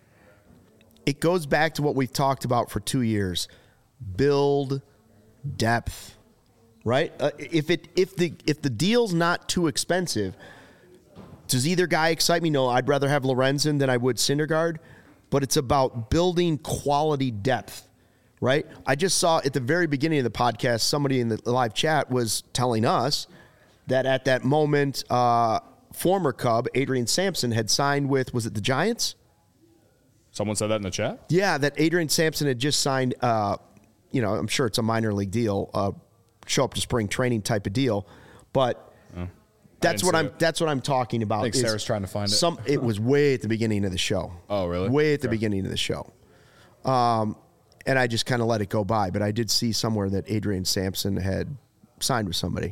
It goes back to what we've talked about for two years. Build depth, right? Uh, if it if the if the deal's not too expensive, does either guy excite me? No, I'd rather have Lorenzen than I would Syndergaard, but it's about building quality depth, right? I just saw at the very beginning of the podcast, somebody in the live chat was telling us that at that moment, uh, former Cub Adrian Sampson had signed with, was it the Giants? Someone said that in the chat? Yeah, that Adrian Sampson had just signed, uh, you know, I'm sure it's a minor league deal, uh, show up to spring training type of deal, but Oh. that's didn't what see I'm it. that's what I'm talking about. I think is Sarah's trying to find it. Some it was way at the beginning of the show. Oh, really? Way at the Okay. beginning of the show. Um, and I just kind of let it go by, but I did see somewhere that Adrian Sampson had signed with somebody.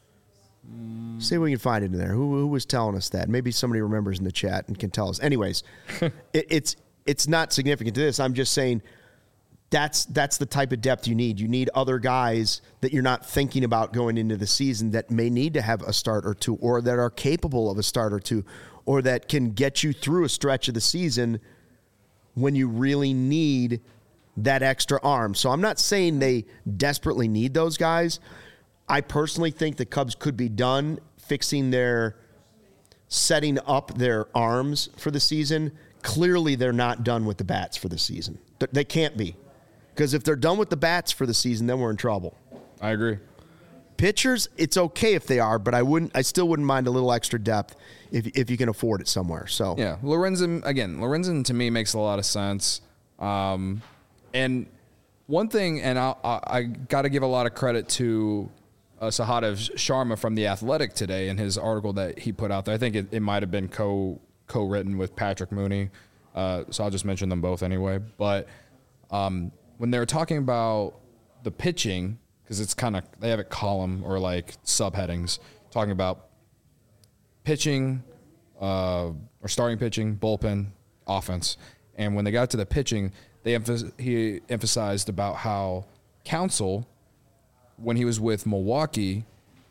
See if we can find it in there. Who, who was telling us that? Maybe somebody remembers in the chat and can tell us. Anyways, it, it's it's not significant to this. I'm just saying that's that's the type of depth you need. You need other guys that you're not thinking about going into the season that may need to have a start or two, or that are capable of a start or two, or that can get you through a stretch of the season when you really need that extra arm. So I'm not saying they desperately need those guys. I personally think the Cubs could be done fixing their, setting up their arms for the season. Clearly, they're not done with the bats for the season. Th- They can't be. Because if they're done with the bats for the season, then we're in trouble. I agree. Pitchers, it's okay if they are, but I wouldn't. I still wouldn't mind a little extra depth if if you can afford it somewhere. So Yeah, Lorenzen, again, Lorenzen to me makes a lot of sense. Um, and one thing, and I, I, I got to give a lot of credit to uh, Sahadev Sharma from The Athletic today in his article that he put out there. I think it, it might have been co, co-written with Patrick Mooney, uh, so I'll just mention them both anyway. But um, when they were talking about the pitching, because it's kind of, they have it column or like subheadings, talking about pitching, uh, or starting pitching, bullpen, offense. And when they got to the pitching, they emph- he emphasized about how Counsell, when he was with Milwaukee,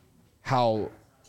how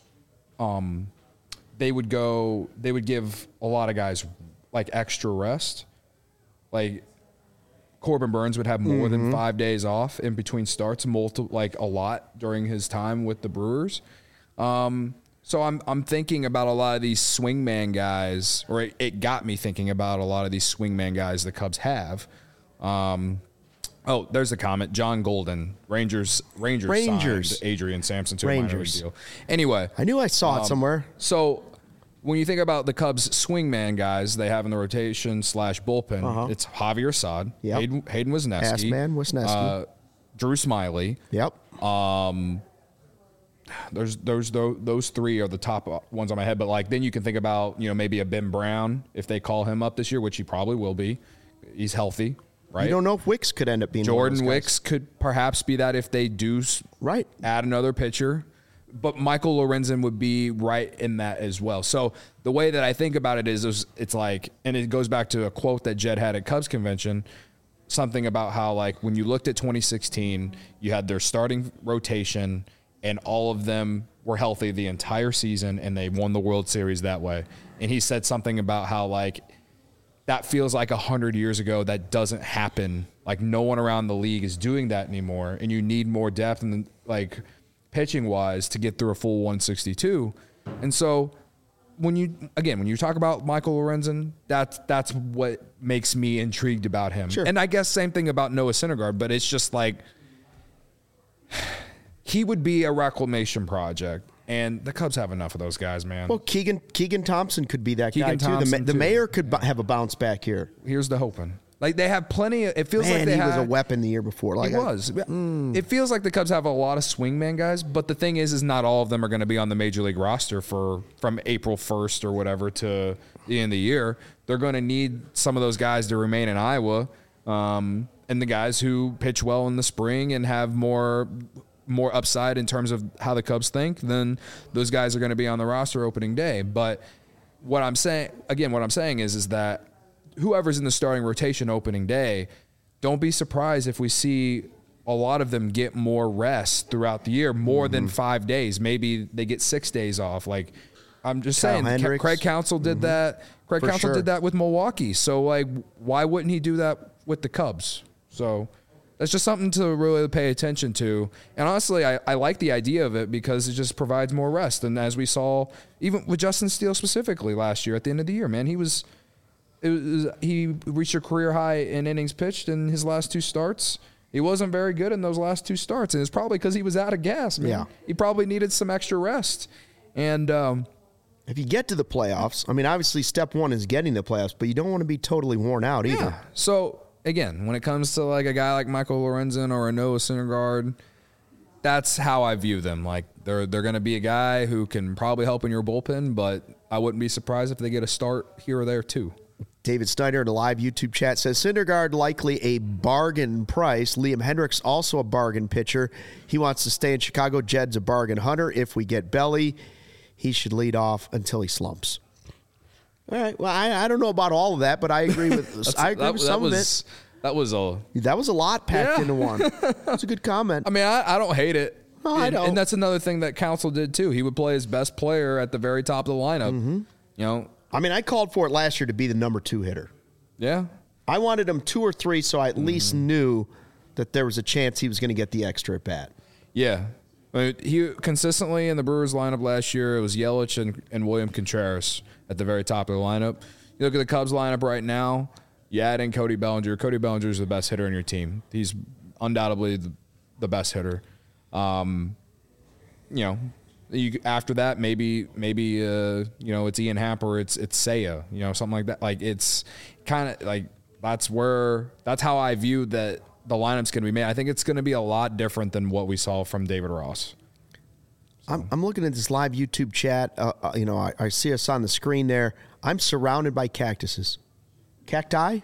um, they would go, they would give a lot of guys like extra rest. Like Corbin Burns would have more than five days off in between starts, multi- like a lot during his time with the Brewers. Um, so I'm I'm thinking about a lot of these swingman guys, or it, it got me thinking about a lot of these swingman guys the Cubs have. Um, oh, there's a comment. John Golden, Rangers, Rangers, Rangers. signed Adrian Sampson to a minor league Rangers. deal. Anyway, I knew I saw it somewhere. so when you think about the Cubs swingman guys they have in the rotation slash bullpen, Uh-huh. it's Javier Assad, Yep. Hayden, Hayden Wesneski, Assman, Wesneski. uh, Drew Smiley. Yep. There's those those those three are the top ones on my head. But like then you can think about you know maybe a Ben Brown if they call him up this year, which he probably will be. He's healthy, right? You don't know if Wicks could end up being one of Jordan those guys. Wicks could perhaps be that if they do s- Right. add another pitcher. But Michael Lorenzen would be right in that as well. So the way that I think about it is, is it's like, and it goes back to a quote that Jed had at Cubs convention, something about how like when you looked at twenty sixteen, you had their starting rotation and all of them were healthy the entire season and they won the World Series that way. And he said something about how like that feels like a hundred years ago. That doesn't happen. Like no one around the league is doing that anymore. And you need more depth and like pitching wise to get through a full one sixty-two. And so when you, again, when you talk about Michael Lorenzen, that's, that's what makes me intrigued about him. Sure. And I guess same thing about Noah Syndergaard, but it's just like, he would be a reclamation project. And the Cubs have enough of those guys, man. Well, Keegan Keegan Thompson could be that guy Keegan too. The, ma- Thompson, the too. mayor could bu- have a bounce back here. Here's the hoping. Like they have plenty of, it feels Man, like they he have, was a weapon the year before. Like He I- was. It feels like the Cubs have a lot of swingman guys, but the thing is, is not all of them are going to be on the major league roster for from April first or whatever to the end of the year. They're going to need some of those guys to remain in Iowa, um, and the guys who pitch well in the spring and have more more upside in terms of how the Cubs think. Then those guys are going to be on the roster opening day. But what I'm saying, again, what I'm saying is, is that whoever's in the starting rotation opening day, don't be surprised if we see a lot of them get more rest throughout the year, more than five days. Maybe they get six days off. Like I'm just Kyle saying, Hendricks. Craig Counsell did mm-hmm. that. Craig For Counsell sure. did that with Milwaukee. So, like, why wouldn't he do that with the Cubs? So that's just something to really pay attention to. And honestly, I, I like the idea of it because it just provides more rest. And as we saw, even with Justin Steele specifically last year at the end of the year, man, he was, it was he reached a career high in innings pitched in his last two starts. He wasn't very good in those last two starts, and it's probably because he was out of gas, man. Yeah. He probably needed some extra rest. And um, if you get to the playoffs, I mean, obviously step one is getting the playoffs, but you don't want to be totally worn out either. Yeah. So, again, when it comes to like a guy like Michael Lorenzen or a Noah Syndergaard, that's how I view them. Like, they're they're going to be a guy who can probably help in your bullpen, but I wouldn't be surprised if they get a start here or there too. David Snyder in the live YouTube chat says, Syndergaard likely a bargain price. Liam Hendricks also a bargain pitcher. He wants to stay in Chicago. Jed's a bargain hunter. If we get Belly, he should lead off until he slumps. All right. Well, I, I don't know about all of that, but I agree with I agree that, with some that was, of it. That was a that was a lot packed yeah. into one. That's a good comment. I mean, I, I don't hate it. No, and, I don't. And that's another thing that Counsell did too. He would play his best player at the very top of the lineup. Mm-hmm. You know. I mean, I called for it last year to be the number two hitter. Yeah. I wanted him two or three, so I at mm-hmm. least knew that there was a chance he was going to get the extra at bat. Yeah. I mean, he consistently in the Brewers lineup last year, it was Yelich and, and William Contreras at the very top of the lineup. You look at the Cubs lineup right now, you add in Cody Bellinger. Cody Bellinger is the best hitter in your team. He's undoubtedly the, the best hitter. Um, you know, You, after that, maybe maybe uh, you know it's Ian Happ or it's it's Seiya, you know, something like that. Like it's kind of like that's where that's how I view that the lineup's going to be made. I think it's going to be a lot different than what we saw from David Ross. So. I'm, I'm looking at this live YouTube chat. Uh, uh, you know, I, I see us on the screen there. I'm surrounded by cactuses, cacti.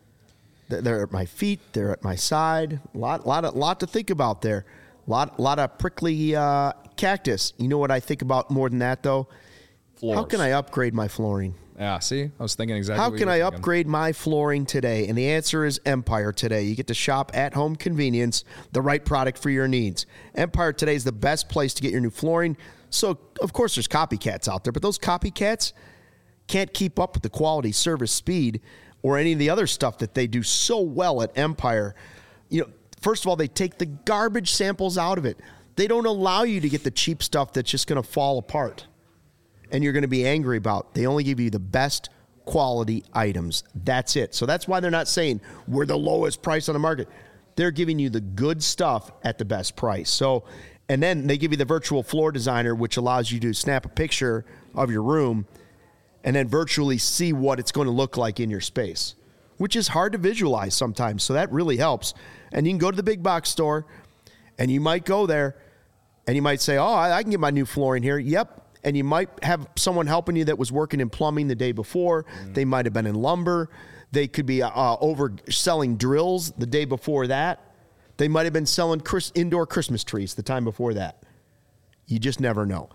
They're at my feet. They're at my side. A lot, lot, of, lot to think about there. Lot, lot of prickly uh, cactus. You know what I think about more than that, though? Floors. How can I upgrade my flooring? Yeah, see? I was thinking exactly How what can you were I thinking. upgrade my flooring today? And the answer is Empire Today. You get to shop at home convenience, the right product for your needs. Empire Today is the best place to get your new flooring. So, of course, there's copycats out there, but those copycats can't keep up with the quality, service, speed, or any of the other stuff that they do so well at Empire. You know, first of all, they take the garbage samples out of it. They don't allow you to get the cheap stuff that's just going to fall apart and you're going to be angry about. They only give you the best quality items. That's it. So that's why they're not saying we're the lowest price on the market. They're giving you the good stuff at the best price. So, and then they give you the virtual floor designer, which allows you to snap a picture of your room and then virtually see what it's going to look like in your space, which is hard to visualize sometimes. So that really helps. And you can go to the big box store and you might go there and you might say, oh, I can get my new flooring here. Yep. And you might have someone helping you that was working in plumbing the day before. Mm. They might have been in lumber. They could be uh, over selling drills the day before that. They might have been selling Chris, indoor Christmas trees the time before that. You just never know.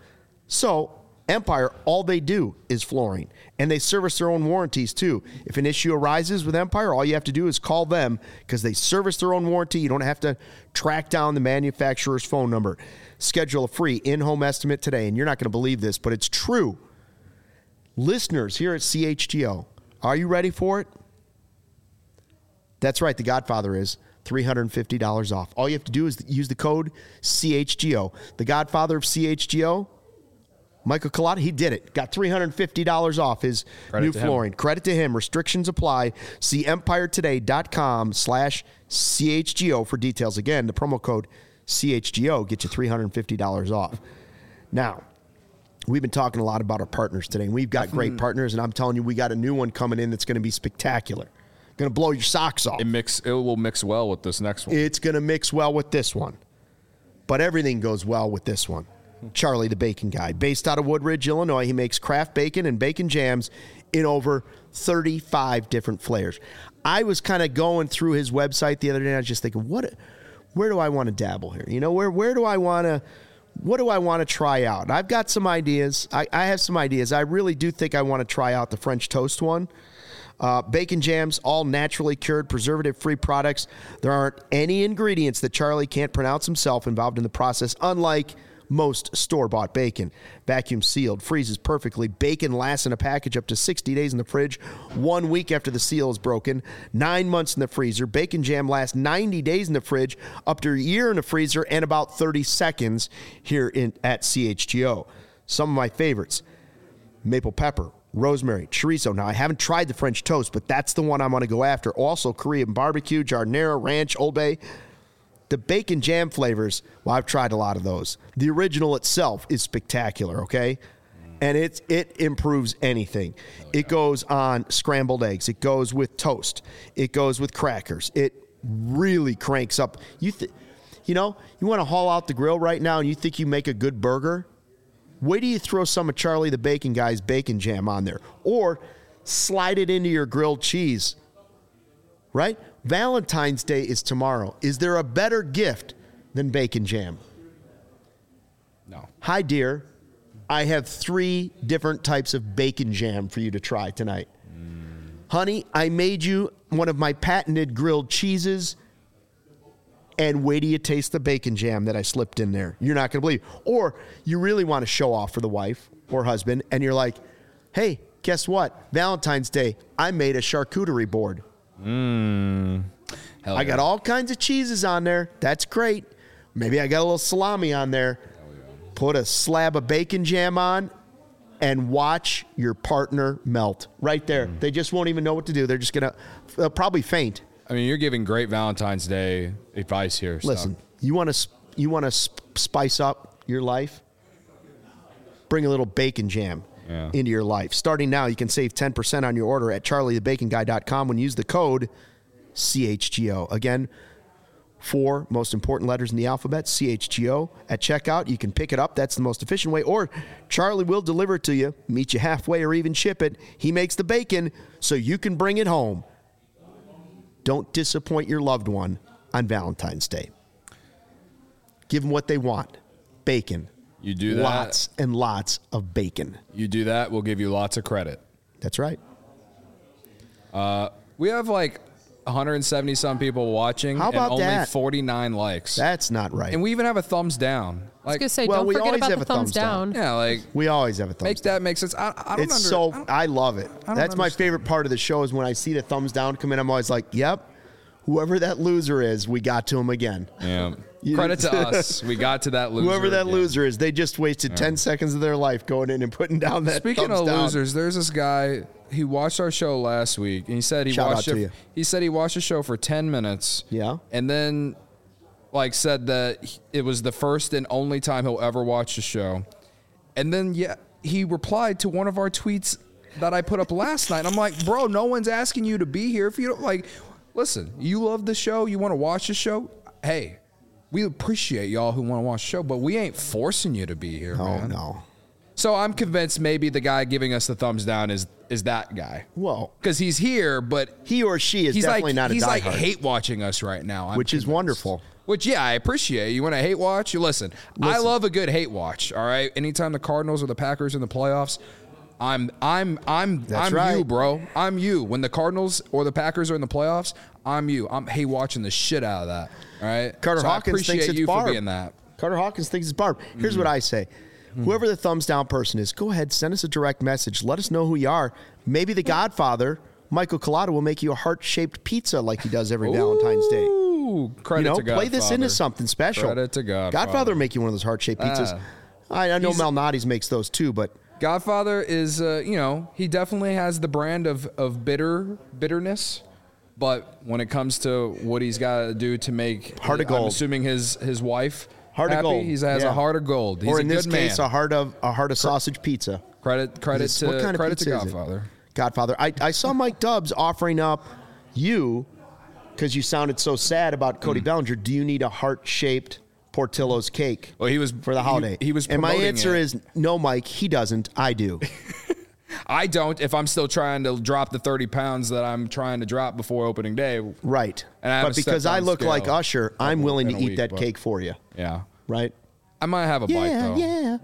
So Empire, all they do is flooring, and they service their own warranties too. If an issue arises with Empire, all you have to do is call them because they service their own warranty. You don't have to track down the manufacturer's phone number. Schedule a free in-home estimate today, and you're not going to believe this, but it's true. Listeners here at C H G O, are you ready for it? That's right, The Godfather is three hundred fifty dollars off. All you have to do is use the code C H G O. The Godfather of C H G O, Michael Collada, he did it. Got three hundred fifty dollars off his Credit new flooring. Him. Credit to him. Restrictions apply. See empiretoday.com slash CHGO for details. Again, the promo code C H G O gets you three hundred fifty dollars off. Now, we've been talking a lot about our partners today, and we've got great partners, and I'm telling you, we got a new one coming in that's going to be spectacular. Going to blow your socks off. It mix. It will mix well with this next one. It's going to mix well with this one. But everything goes well with this one. Charlie the Bacon Guy. Based out of Woodridge, Illinois, he makes craft bacon and bacon jams in over thirty-five different flavors. I was kind of going through his website the other day, and I was just thinking, what, where do I want to dabble here? You know, where where do I want to, what do I want to try out? I've got some ideas. I, I have some ideas. I really do think I want to try out the French toast one. Uh, bacon jams, all naturally cured, preservative-free products. There aren't any ingredients that Charlie can't pronounce himself involved in the process, unlike most store-bought bacon. Vacuum sealed, freezes perfectly. Bacon lasts in a package up to sixty days in the fridge, one week after the seal is broken, nine months in the freezer. Bacon Jam lasts ninety days in the fridge, up to a year in the freezer, and about thirty seconds here in at C H G O. Some of my favorites: maple pepper, rosemary, chorizo. Now, I haven't tried the French toast, but that's the one I'm going to go after. Also, Korean barbecue, giardiniera, ranch, Old Bay. The bacon jam flavors, well, I've tried a lot of those. The original itself is spectacular, okay? And it's, it improves anything. Oh, yeah. It goes on scrambled eggs. It goes with toast. It goes with crackers. It really cranks up. You, th- you know, you want to haul out the grill right now and you think you make a good burger? Wait till you throw some of Charlie the Bacon Guy's bacon jam on there. Or slide it into your grilled cheese, right? Valentine's Day is tomorrow. Is there a better gift than bacon jam? No. Hi, dear. I have three different types of bacon jam for you to try tonight. Mm. Honey, I made you one of my patented grilled cheeses, and wait till you taste the bacon jam that I slipped in there. You're not going to believe it. Or you really want to show off for the wife or husband, and you're like, hey, guess what? Valentine's Day, I made a charcuterie board. Mm. Hell I got yeah. all kinds of cheeses on there. That's great. Maybe I got a little salami on there. Yeah. Put a slab of bacon jam on and watch your partner melt right there. Mm. They just won't even know what to do. They're just going to probably faint. I mean, you're giving great Valentine's Day advice here. Listen, Stuck. you want to you want to sp- spice up your life? Bring a little bacon jam yeah. into your life. Starting now, you can save ten percent on your order at charlie the bacon guy dot com when you use the code C H G O. Again, four most important letters in the alphabet, C H G O. At checkout, you can pick it up. That's the most efficient way. Or Charlie will deliver it to you, meet you halfway, or even ship it. He makes the bacon so you can bring it home. Don't disappoint your loved one on Valentine's Day. Give them what they want. Bacon. You do that. Lots and lots of bacon. You do that, we'll give you lots of credit. That's right. Uh, we have like one hundred seventy some people watching. How about and only that? forty-nine likes. That's not right. And we even have a thumbs down. I was Like, going to say, well, don't we forget always about have the a thumbs, thumbs down. down. yeah, like we always have a thumbs make down. that make sense. I, I don't It's under, so I, I love it. don't That's my understand. favorite part of the show is when I see the thumbs down come in. I'm always like, "Yep, whoever that loser is, we got to him again." yeah. You- Credit to us. We got to that loser. Whoever that again. loser is, they just wasted ten seconds of their life going in and putting down that. Speaking thumbs of down. losers, there's this guy. He watched our show last week, and he said he Shout out watched to it. you. He said he watched the show for ten minutes. Yeah. and then like said that it was the first and only time he'll ever watch the show. And then yeah, he replied to one of our tweets that I put up last night. I'm like, bro, no one's asking you to be here if you don't like. Listen, you love the show, you want to watch the show. Hey, we appreciate y'all who want to watch the show, but we ain't forcing you to be here. Oh man. no. So I'm convinced maybe the guy giving us the thumbs down is is that guy. Well, Because he's here, but he or she is he's definitely like not a he's like diehard, hate watching us right now, I'm which is convinced. wonderful. Which yeah, I appreciate. You want to hate watch? You listen, I Listen. love a good hate watch. All right, anytime the Cardinals or the Packers in the playoffs, I'm I'm I'm That's I'm right. you, bro. I'm you. When the Cardinals or the Packers are in the playoffs, I'm you. I'm hate watching the shit out of that. All right, Carter so Hawkins I appreciate thinks it's you Barb. for being that. Carter Hawkins thinks it's Barb. Here's Mm. what I say. Whoever the thumbs down person is, go ahead, send us a direct message. Let us know who you are. Maybe the Godfather, Michael Collada, will make you a heart-shaped pizza like he does every Valentine's Day. Ooh, credit You know, to Godfather. play this into something special. Credit to Godfather. Godfather will make you one of those heart-shaped pizzas. Ah. I, I know He's- Malnati's makes those too, but Godfather is, uh, you know, he definitely has the brand of, of bitter bitterness, but when it comes to what he's got to do to make, Heart of I'm gold. assuming his his wife heart happy, of gold. he has Yeah. a heart of gold. He's or a in good this man. case, a heart of a heart of sausage pizza. credit credit This- to what kind of credit to pizza is it? Godfather. Godfather. I, I saw Mike Dubbs offering up you because you sounded so sad about Cody Mm. Bellinger. Do you need a heart-shaped Portillo's cake Well, he was for the holiday? He, he was, and my promoting answer it. is no, Mike. He doesn't. I do. I don't. If I'm still trying to drop the thirty pounds that I'm trying to drop before opening day, Right. And I but haven't because stepped I on look scale like Usher, I'm couple- willing to in a eat week, that but- cake for you. yeah, Right? I might have a bite though. yeah.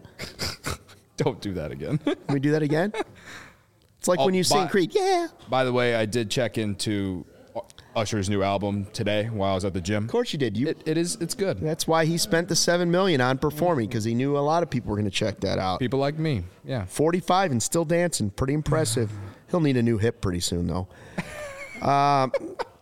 Don't do that again. Can we do that again? It's like Oh, when you sing by- Creed. Yeah. By the way, I did check into Usher's new album today while I was at the gym. Of course you did. You. It, it is. It's good. That's why he spent the seven million on performing, because he knew a lot of people were going to check that out. People like me. Yeah. forty-five and still dancing. Pretty impressive. He'll need a new hip pretty soon, though. um,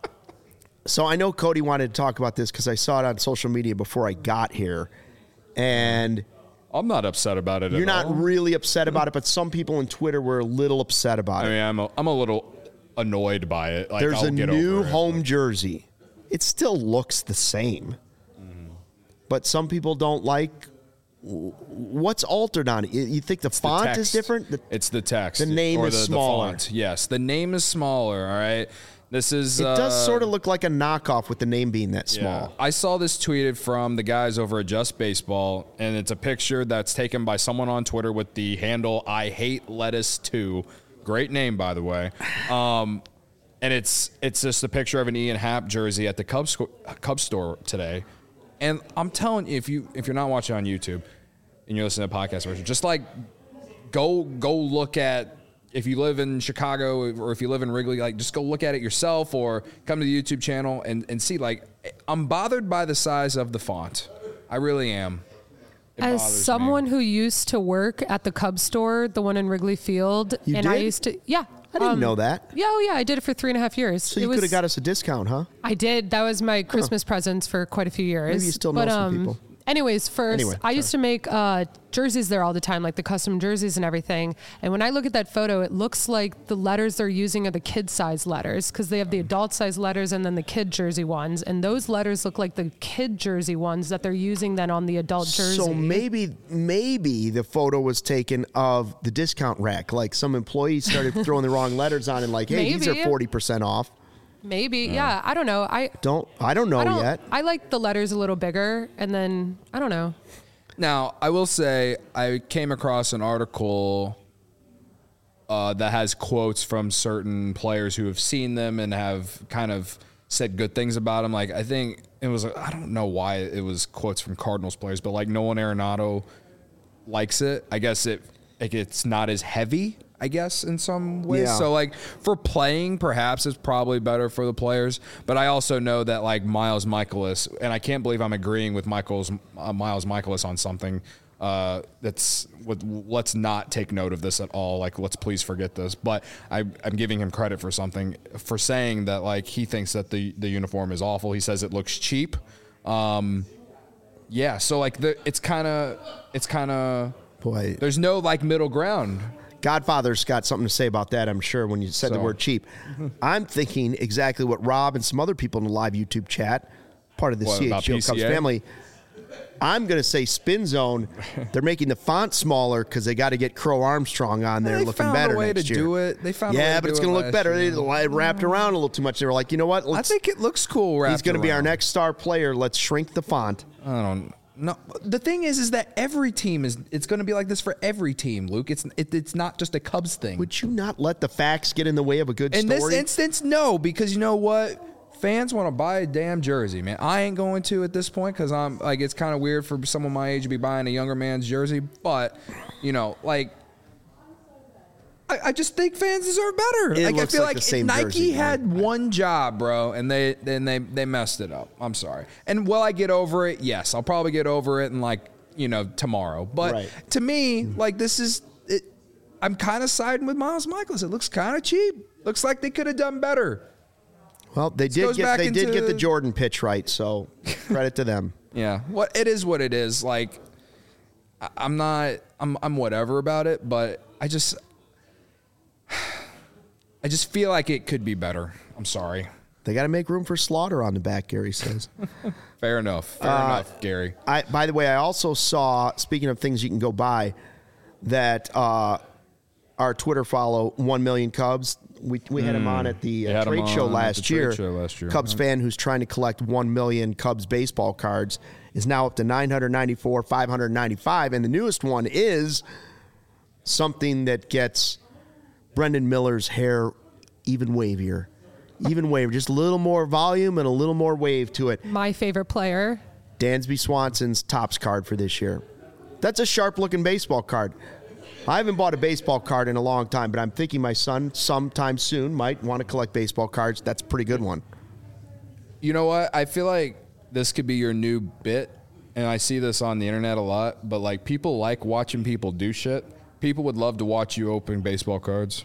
so I know Cody wanted to talk about this because I saw it on social media before I got here, and I'm not upset about it. you're at not all. really upset about it, but some people on Twitter were a little upset about I it. mean, I'm a, I'm a little annoyed by it. Like, There's I'll a get new over it, home but- jersey. It still looks the same, Mm-hmm. but some people don't like what's altered on it. You you think the The font is text. different? The- It's the text. the name or is the, smaller. The font. Yes, the name is smaller. All right. This is. It does uh, sort of look like a knockoff with the name being that Yeah. small. I saw this tweeted from the guys over at Just Baseball, and it's a picture that's taken by someone on Twitter with the handle I hate lettuce too. Great name, by the way. Um, and it's it's just a picture of an Ian Happ jersey at the Cubs sco- Cubs store today. And I'm telling you, if you if you're not watching on YouTube and you're listening to the podcast version, just like go go look at. If you live in Chicago or if you live in Wrigley, like just go look at it yourself or come to the YouTube channel and, and see. Like, I'm bothered by the size of the font. I really am. It As bothers me. someone who used to work at the Cubs store, the one in Wrigley Field, You and I did? used to, yeah. I didn't um, know that. Yeah, oh yeah, I did it for three and a half years. So It you was- could have got us a discount, huh? I did. That was my Christmas presents for quite a few years. Maybe you still know but, some um, people. Anyways, first, Anyway, I used to make uh, jerseys there all the time, like the custom jerseys and everything. And when I look at that photo, it looks like the letters they're using are the kid size letters because they have the adult size letters and then the kid jersey ones. And those letters look like the kid jersey ones that they're using then on the adult jersey. So maybe maybe the photo was taken of the discount rack. Like some employees started throwing the wrong letters on and like, hey, these are Maybe. forty percent off. Maybe, yeah. I don't know. I Don't I don't know I don't, yet. I like the letters a little bigger, and then I don't know. Now, I will say I came across an article uh, that has quotes from certain players who have seen them and have kind of said good things about them. Like, I think it was, I don't know why it was quotes from Cardinals players, but like Nolan Arenado likes it. I guess it like it's not as heavy, I guess, in some ways. Yeah. So, like, for playing, perhaps it's probably better for the players. But I also know that, like, Miles Michaelis, and I can't believe I'm agreeing with Michael's, uh, Miles Michaelis on something uh, that's, with, let's not take note of this at all. Like, let's please forget this. But I, I'm giving him credit for something, for saying that, like, he thinks that the, the uniform is awful. He says it looks cheap. Um, yeah, so, like, the, it's kind of, it's kind of, Boy, there's no, like, middle ground. Godfather's got something to say about that, I'm sure, when you said the So. word cheap. I'm thinking exactly what Rob and some other people in the live YouTube chat, part of the What, about C H G O P C A? Cubs family. I'm going to say Spin Zone. They're making the font smaller because they got to get Crow Armstrong on there They looking found better a way next to year. do it. They found a way yeah, to but do it's it going to look last better. year. They li- wrapped around a little too much. They were like, you know what? I Let's, think it looks cool. he's going to be our around. next star player. Let's shrink the font. I don't know. The thing is, is that every team is. It's going to be like this for every team, Luke. It's it, it's not just a Cubs thing. Would you not let the facts get in the way of a good In story? this instance, no, because you know what? Fans want to buy a damn jersey, man. I ain't going to at this point because I'm like, it's kind of weird for someone my age to be buying a younger man's jersey. But you know, like, I, I just think fans deserve better. It like, I looks feel like like, the same Nike jersey, had right? one job, bro, and they then they they messed it up. I'm sorry. And will I get over it? Yes, I'll probably get over it in like you know tomorrow. But Right. to me, like this is. It, I'm kind of siding with Miles Michaelis. It looks kind of cheap. Looks like they could have done better. well, they did goes get back they did get into- the Jordan pitch right, so credit to them. Yeah, what it is, what it is. Like, I- I'm not, I'm, I'm whatever about it, but I just, I just feel like it could be better. I'm sorry. They got to make room for Slaughter on the back, Gary says. Fair enough. Fair Uh, enough, Gary. I, by the way, I also saw, speaking of things you can go buy, that uh, our Twitter follow, one million Cubs, we, we had him on at the They uh, had him trade show on at last the trade year. show last year. Cubs Yeah. fan who's trying to collect one million Cubs baseball cards is now up to nine hundred ninety-four, five hundred ninety-five. And the newest one is something that gets Brendan Miller's hair even wavier. Even wavier. Just a little more volume and a little more wave to it. My favorite player. Dansby Swanson's Topps card for this year. That's a sharp-looking baseball card. I haven't bought a baseball card in a long time, but I'm thinking my son sometime soon might want to collect baseball cards. That's a pretty good one. You know what? I feel like this could be your new bit, and I see this on the internet a lot, but like people like watching people do shit. People would love to watch you open baseball cards.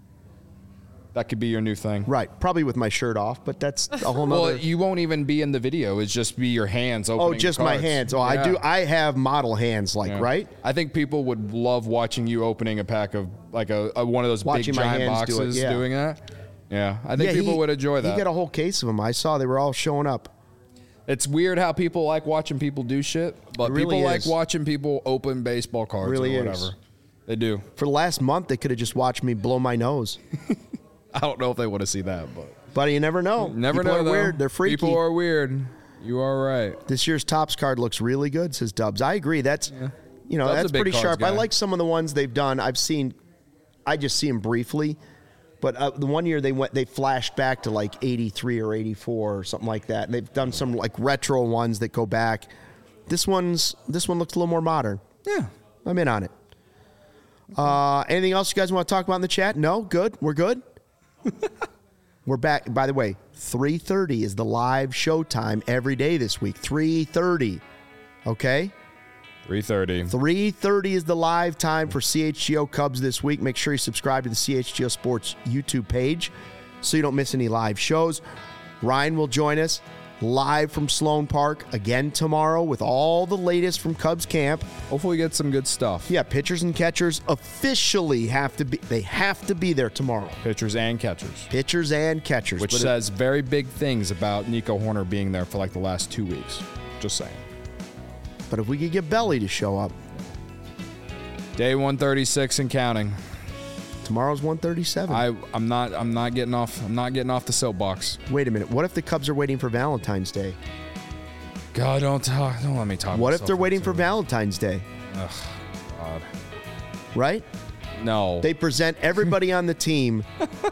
That could be your new thing. Right. Probably with my shirt off, but that's a whole nother. Well, you won't even be in the video. It's just be your hands opening Oh, just my cards. hands. Oh, Yeah. I do. I have model hands, like, Yeah. right? I think people would love watching you opening a pack of like a, a one of those Watching big my giant hands do it, boxes yeah. doing that. Yeah, I think Yeah, people he- would enjoy that. He got a whole case of them. I saw they were all showing up. It's weird how people like watching people do shit, but It really people like is. watching people open baseball cards Really or is. whatever. They do. For the last month, they could have just watched me blow my nose. I don't know if they want to see that, but But you never know. never People know. are though. weird. They're freaky. People are weird. You are right. This year's Topps card looks really good, says Dubs. I agree. That's, you know, Dubs that's a big pretty cards sharp. I guy. like some of the ones they've done. I've seen, I just see them briefly. But uh, the one year they went, they flashed back to like eighty-three or eighty-four or something like that. And they've done some like retro ones that go back. This one's, this one looks a little more modern. Yeah. I'm in on it. Uh, anything else you guys want to talk about in the chat? No? Good? We're good? We're back. By the way, three thirty is the live show time every day this week. three thirty. Okay? three thirty. three thirty is the live time for C H G O Cubs this week. Make sure you subscribe to the C H G O Sports YouTube page so you don't miss any live shows. Ryan will join us live from Sloan Park again tomorrow with all the latest from Cubs camp. Hopefully get some good stuff. Yeah, pitchers and catchers officially have to be, they have to be there tomorrow. Pitchers and catchers. Pitchers and catchers. Which But it- says very big things about Nico Horner being there for like the last two weeks. Just saying. but if we could get Belly to show up, Day one thirty-six and counting. tomorrow's one thirty-seven. I I'm not I'm not getting off I'm not getting off the soapbox. Wait a minute. What if the Cubs are waiting for Valentine's Day? God, don't talk. Don't let me talk. What if myself they're waiting for into it. Valentine's Day? Ugh, God. Right? No. They present everybody on the team.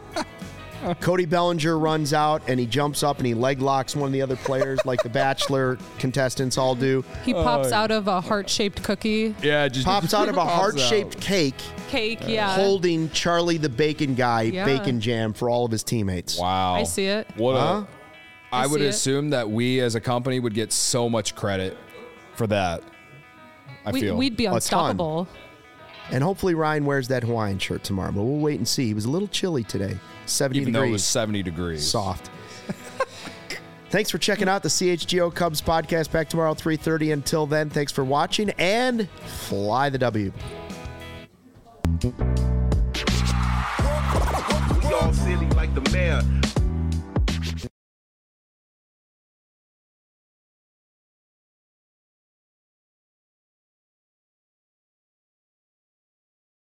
Cody Bellinger runs out and he jumps up and he leg locks one of the other players like the Bachelor contestants all do. He pops out of a heart-shaped cookie yeah, just Pops out of a pops heart-shaped out. cake cake. Yeah, holding Charlie the Bacon Guy Yeah. bacon jam for all of his teammates. Wow. I see it. What Huh? a I I would see it. assume that we as a company would get so much credit for that. I we, feel. we'd be ton. unstoppable. And hopefully Ryan wears that Hawaiian shirt tomorrow, but we'll wait and see. He was a little chilly today. seventy even though it was degrees. seventy degrees. Soft. Thanks for checking out the C H G O Cubs podcast. Back tomorrow at three thirty. Until then, thanks for watching and fly the W. We all silly like the mayor.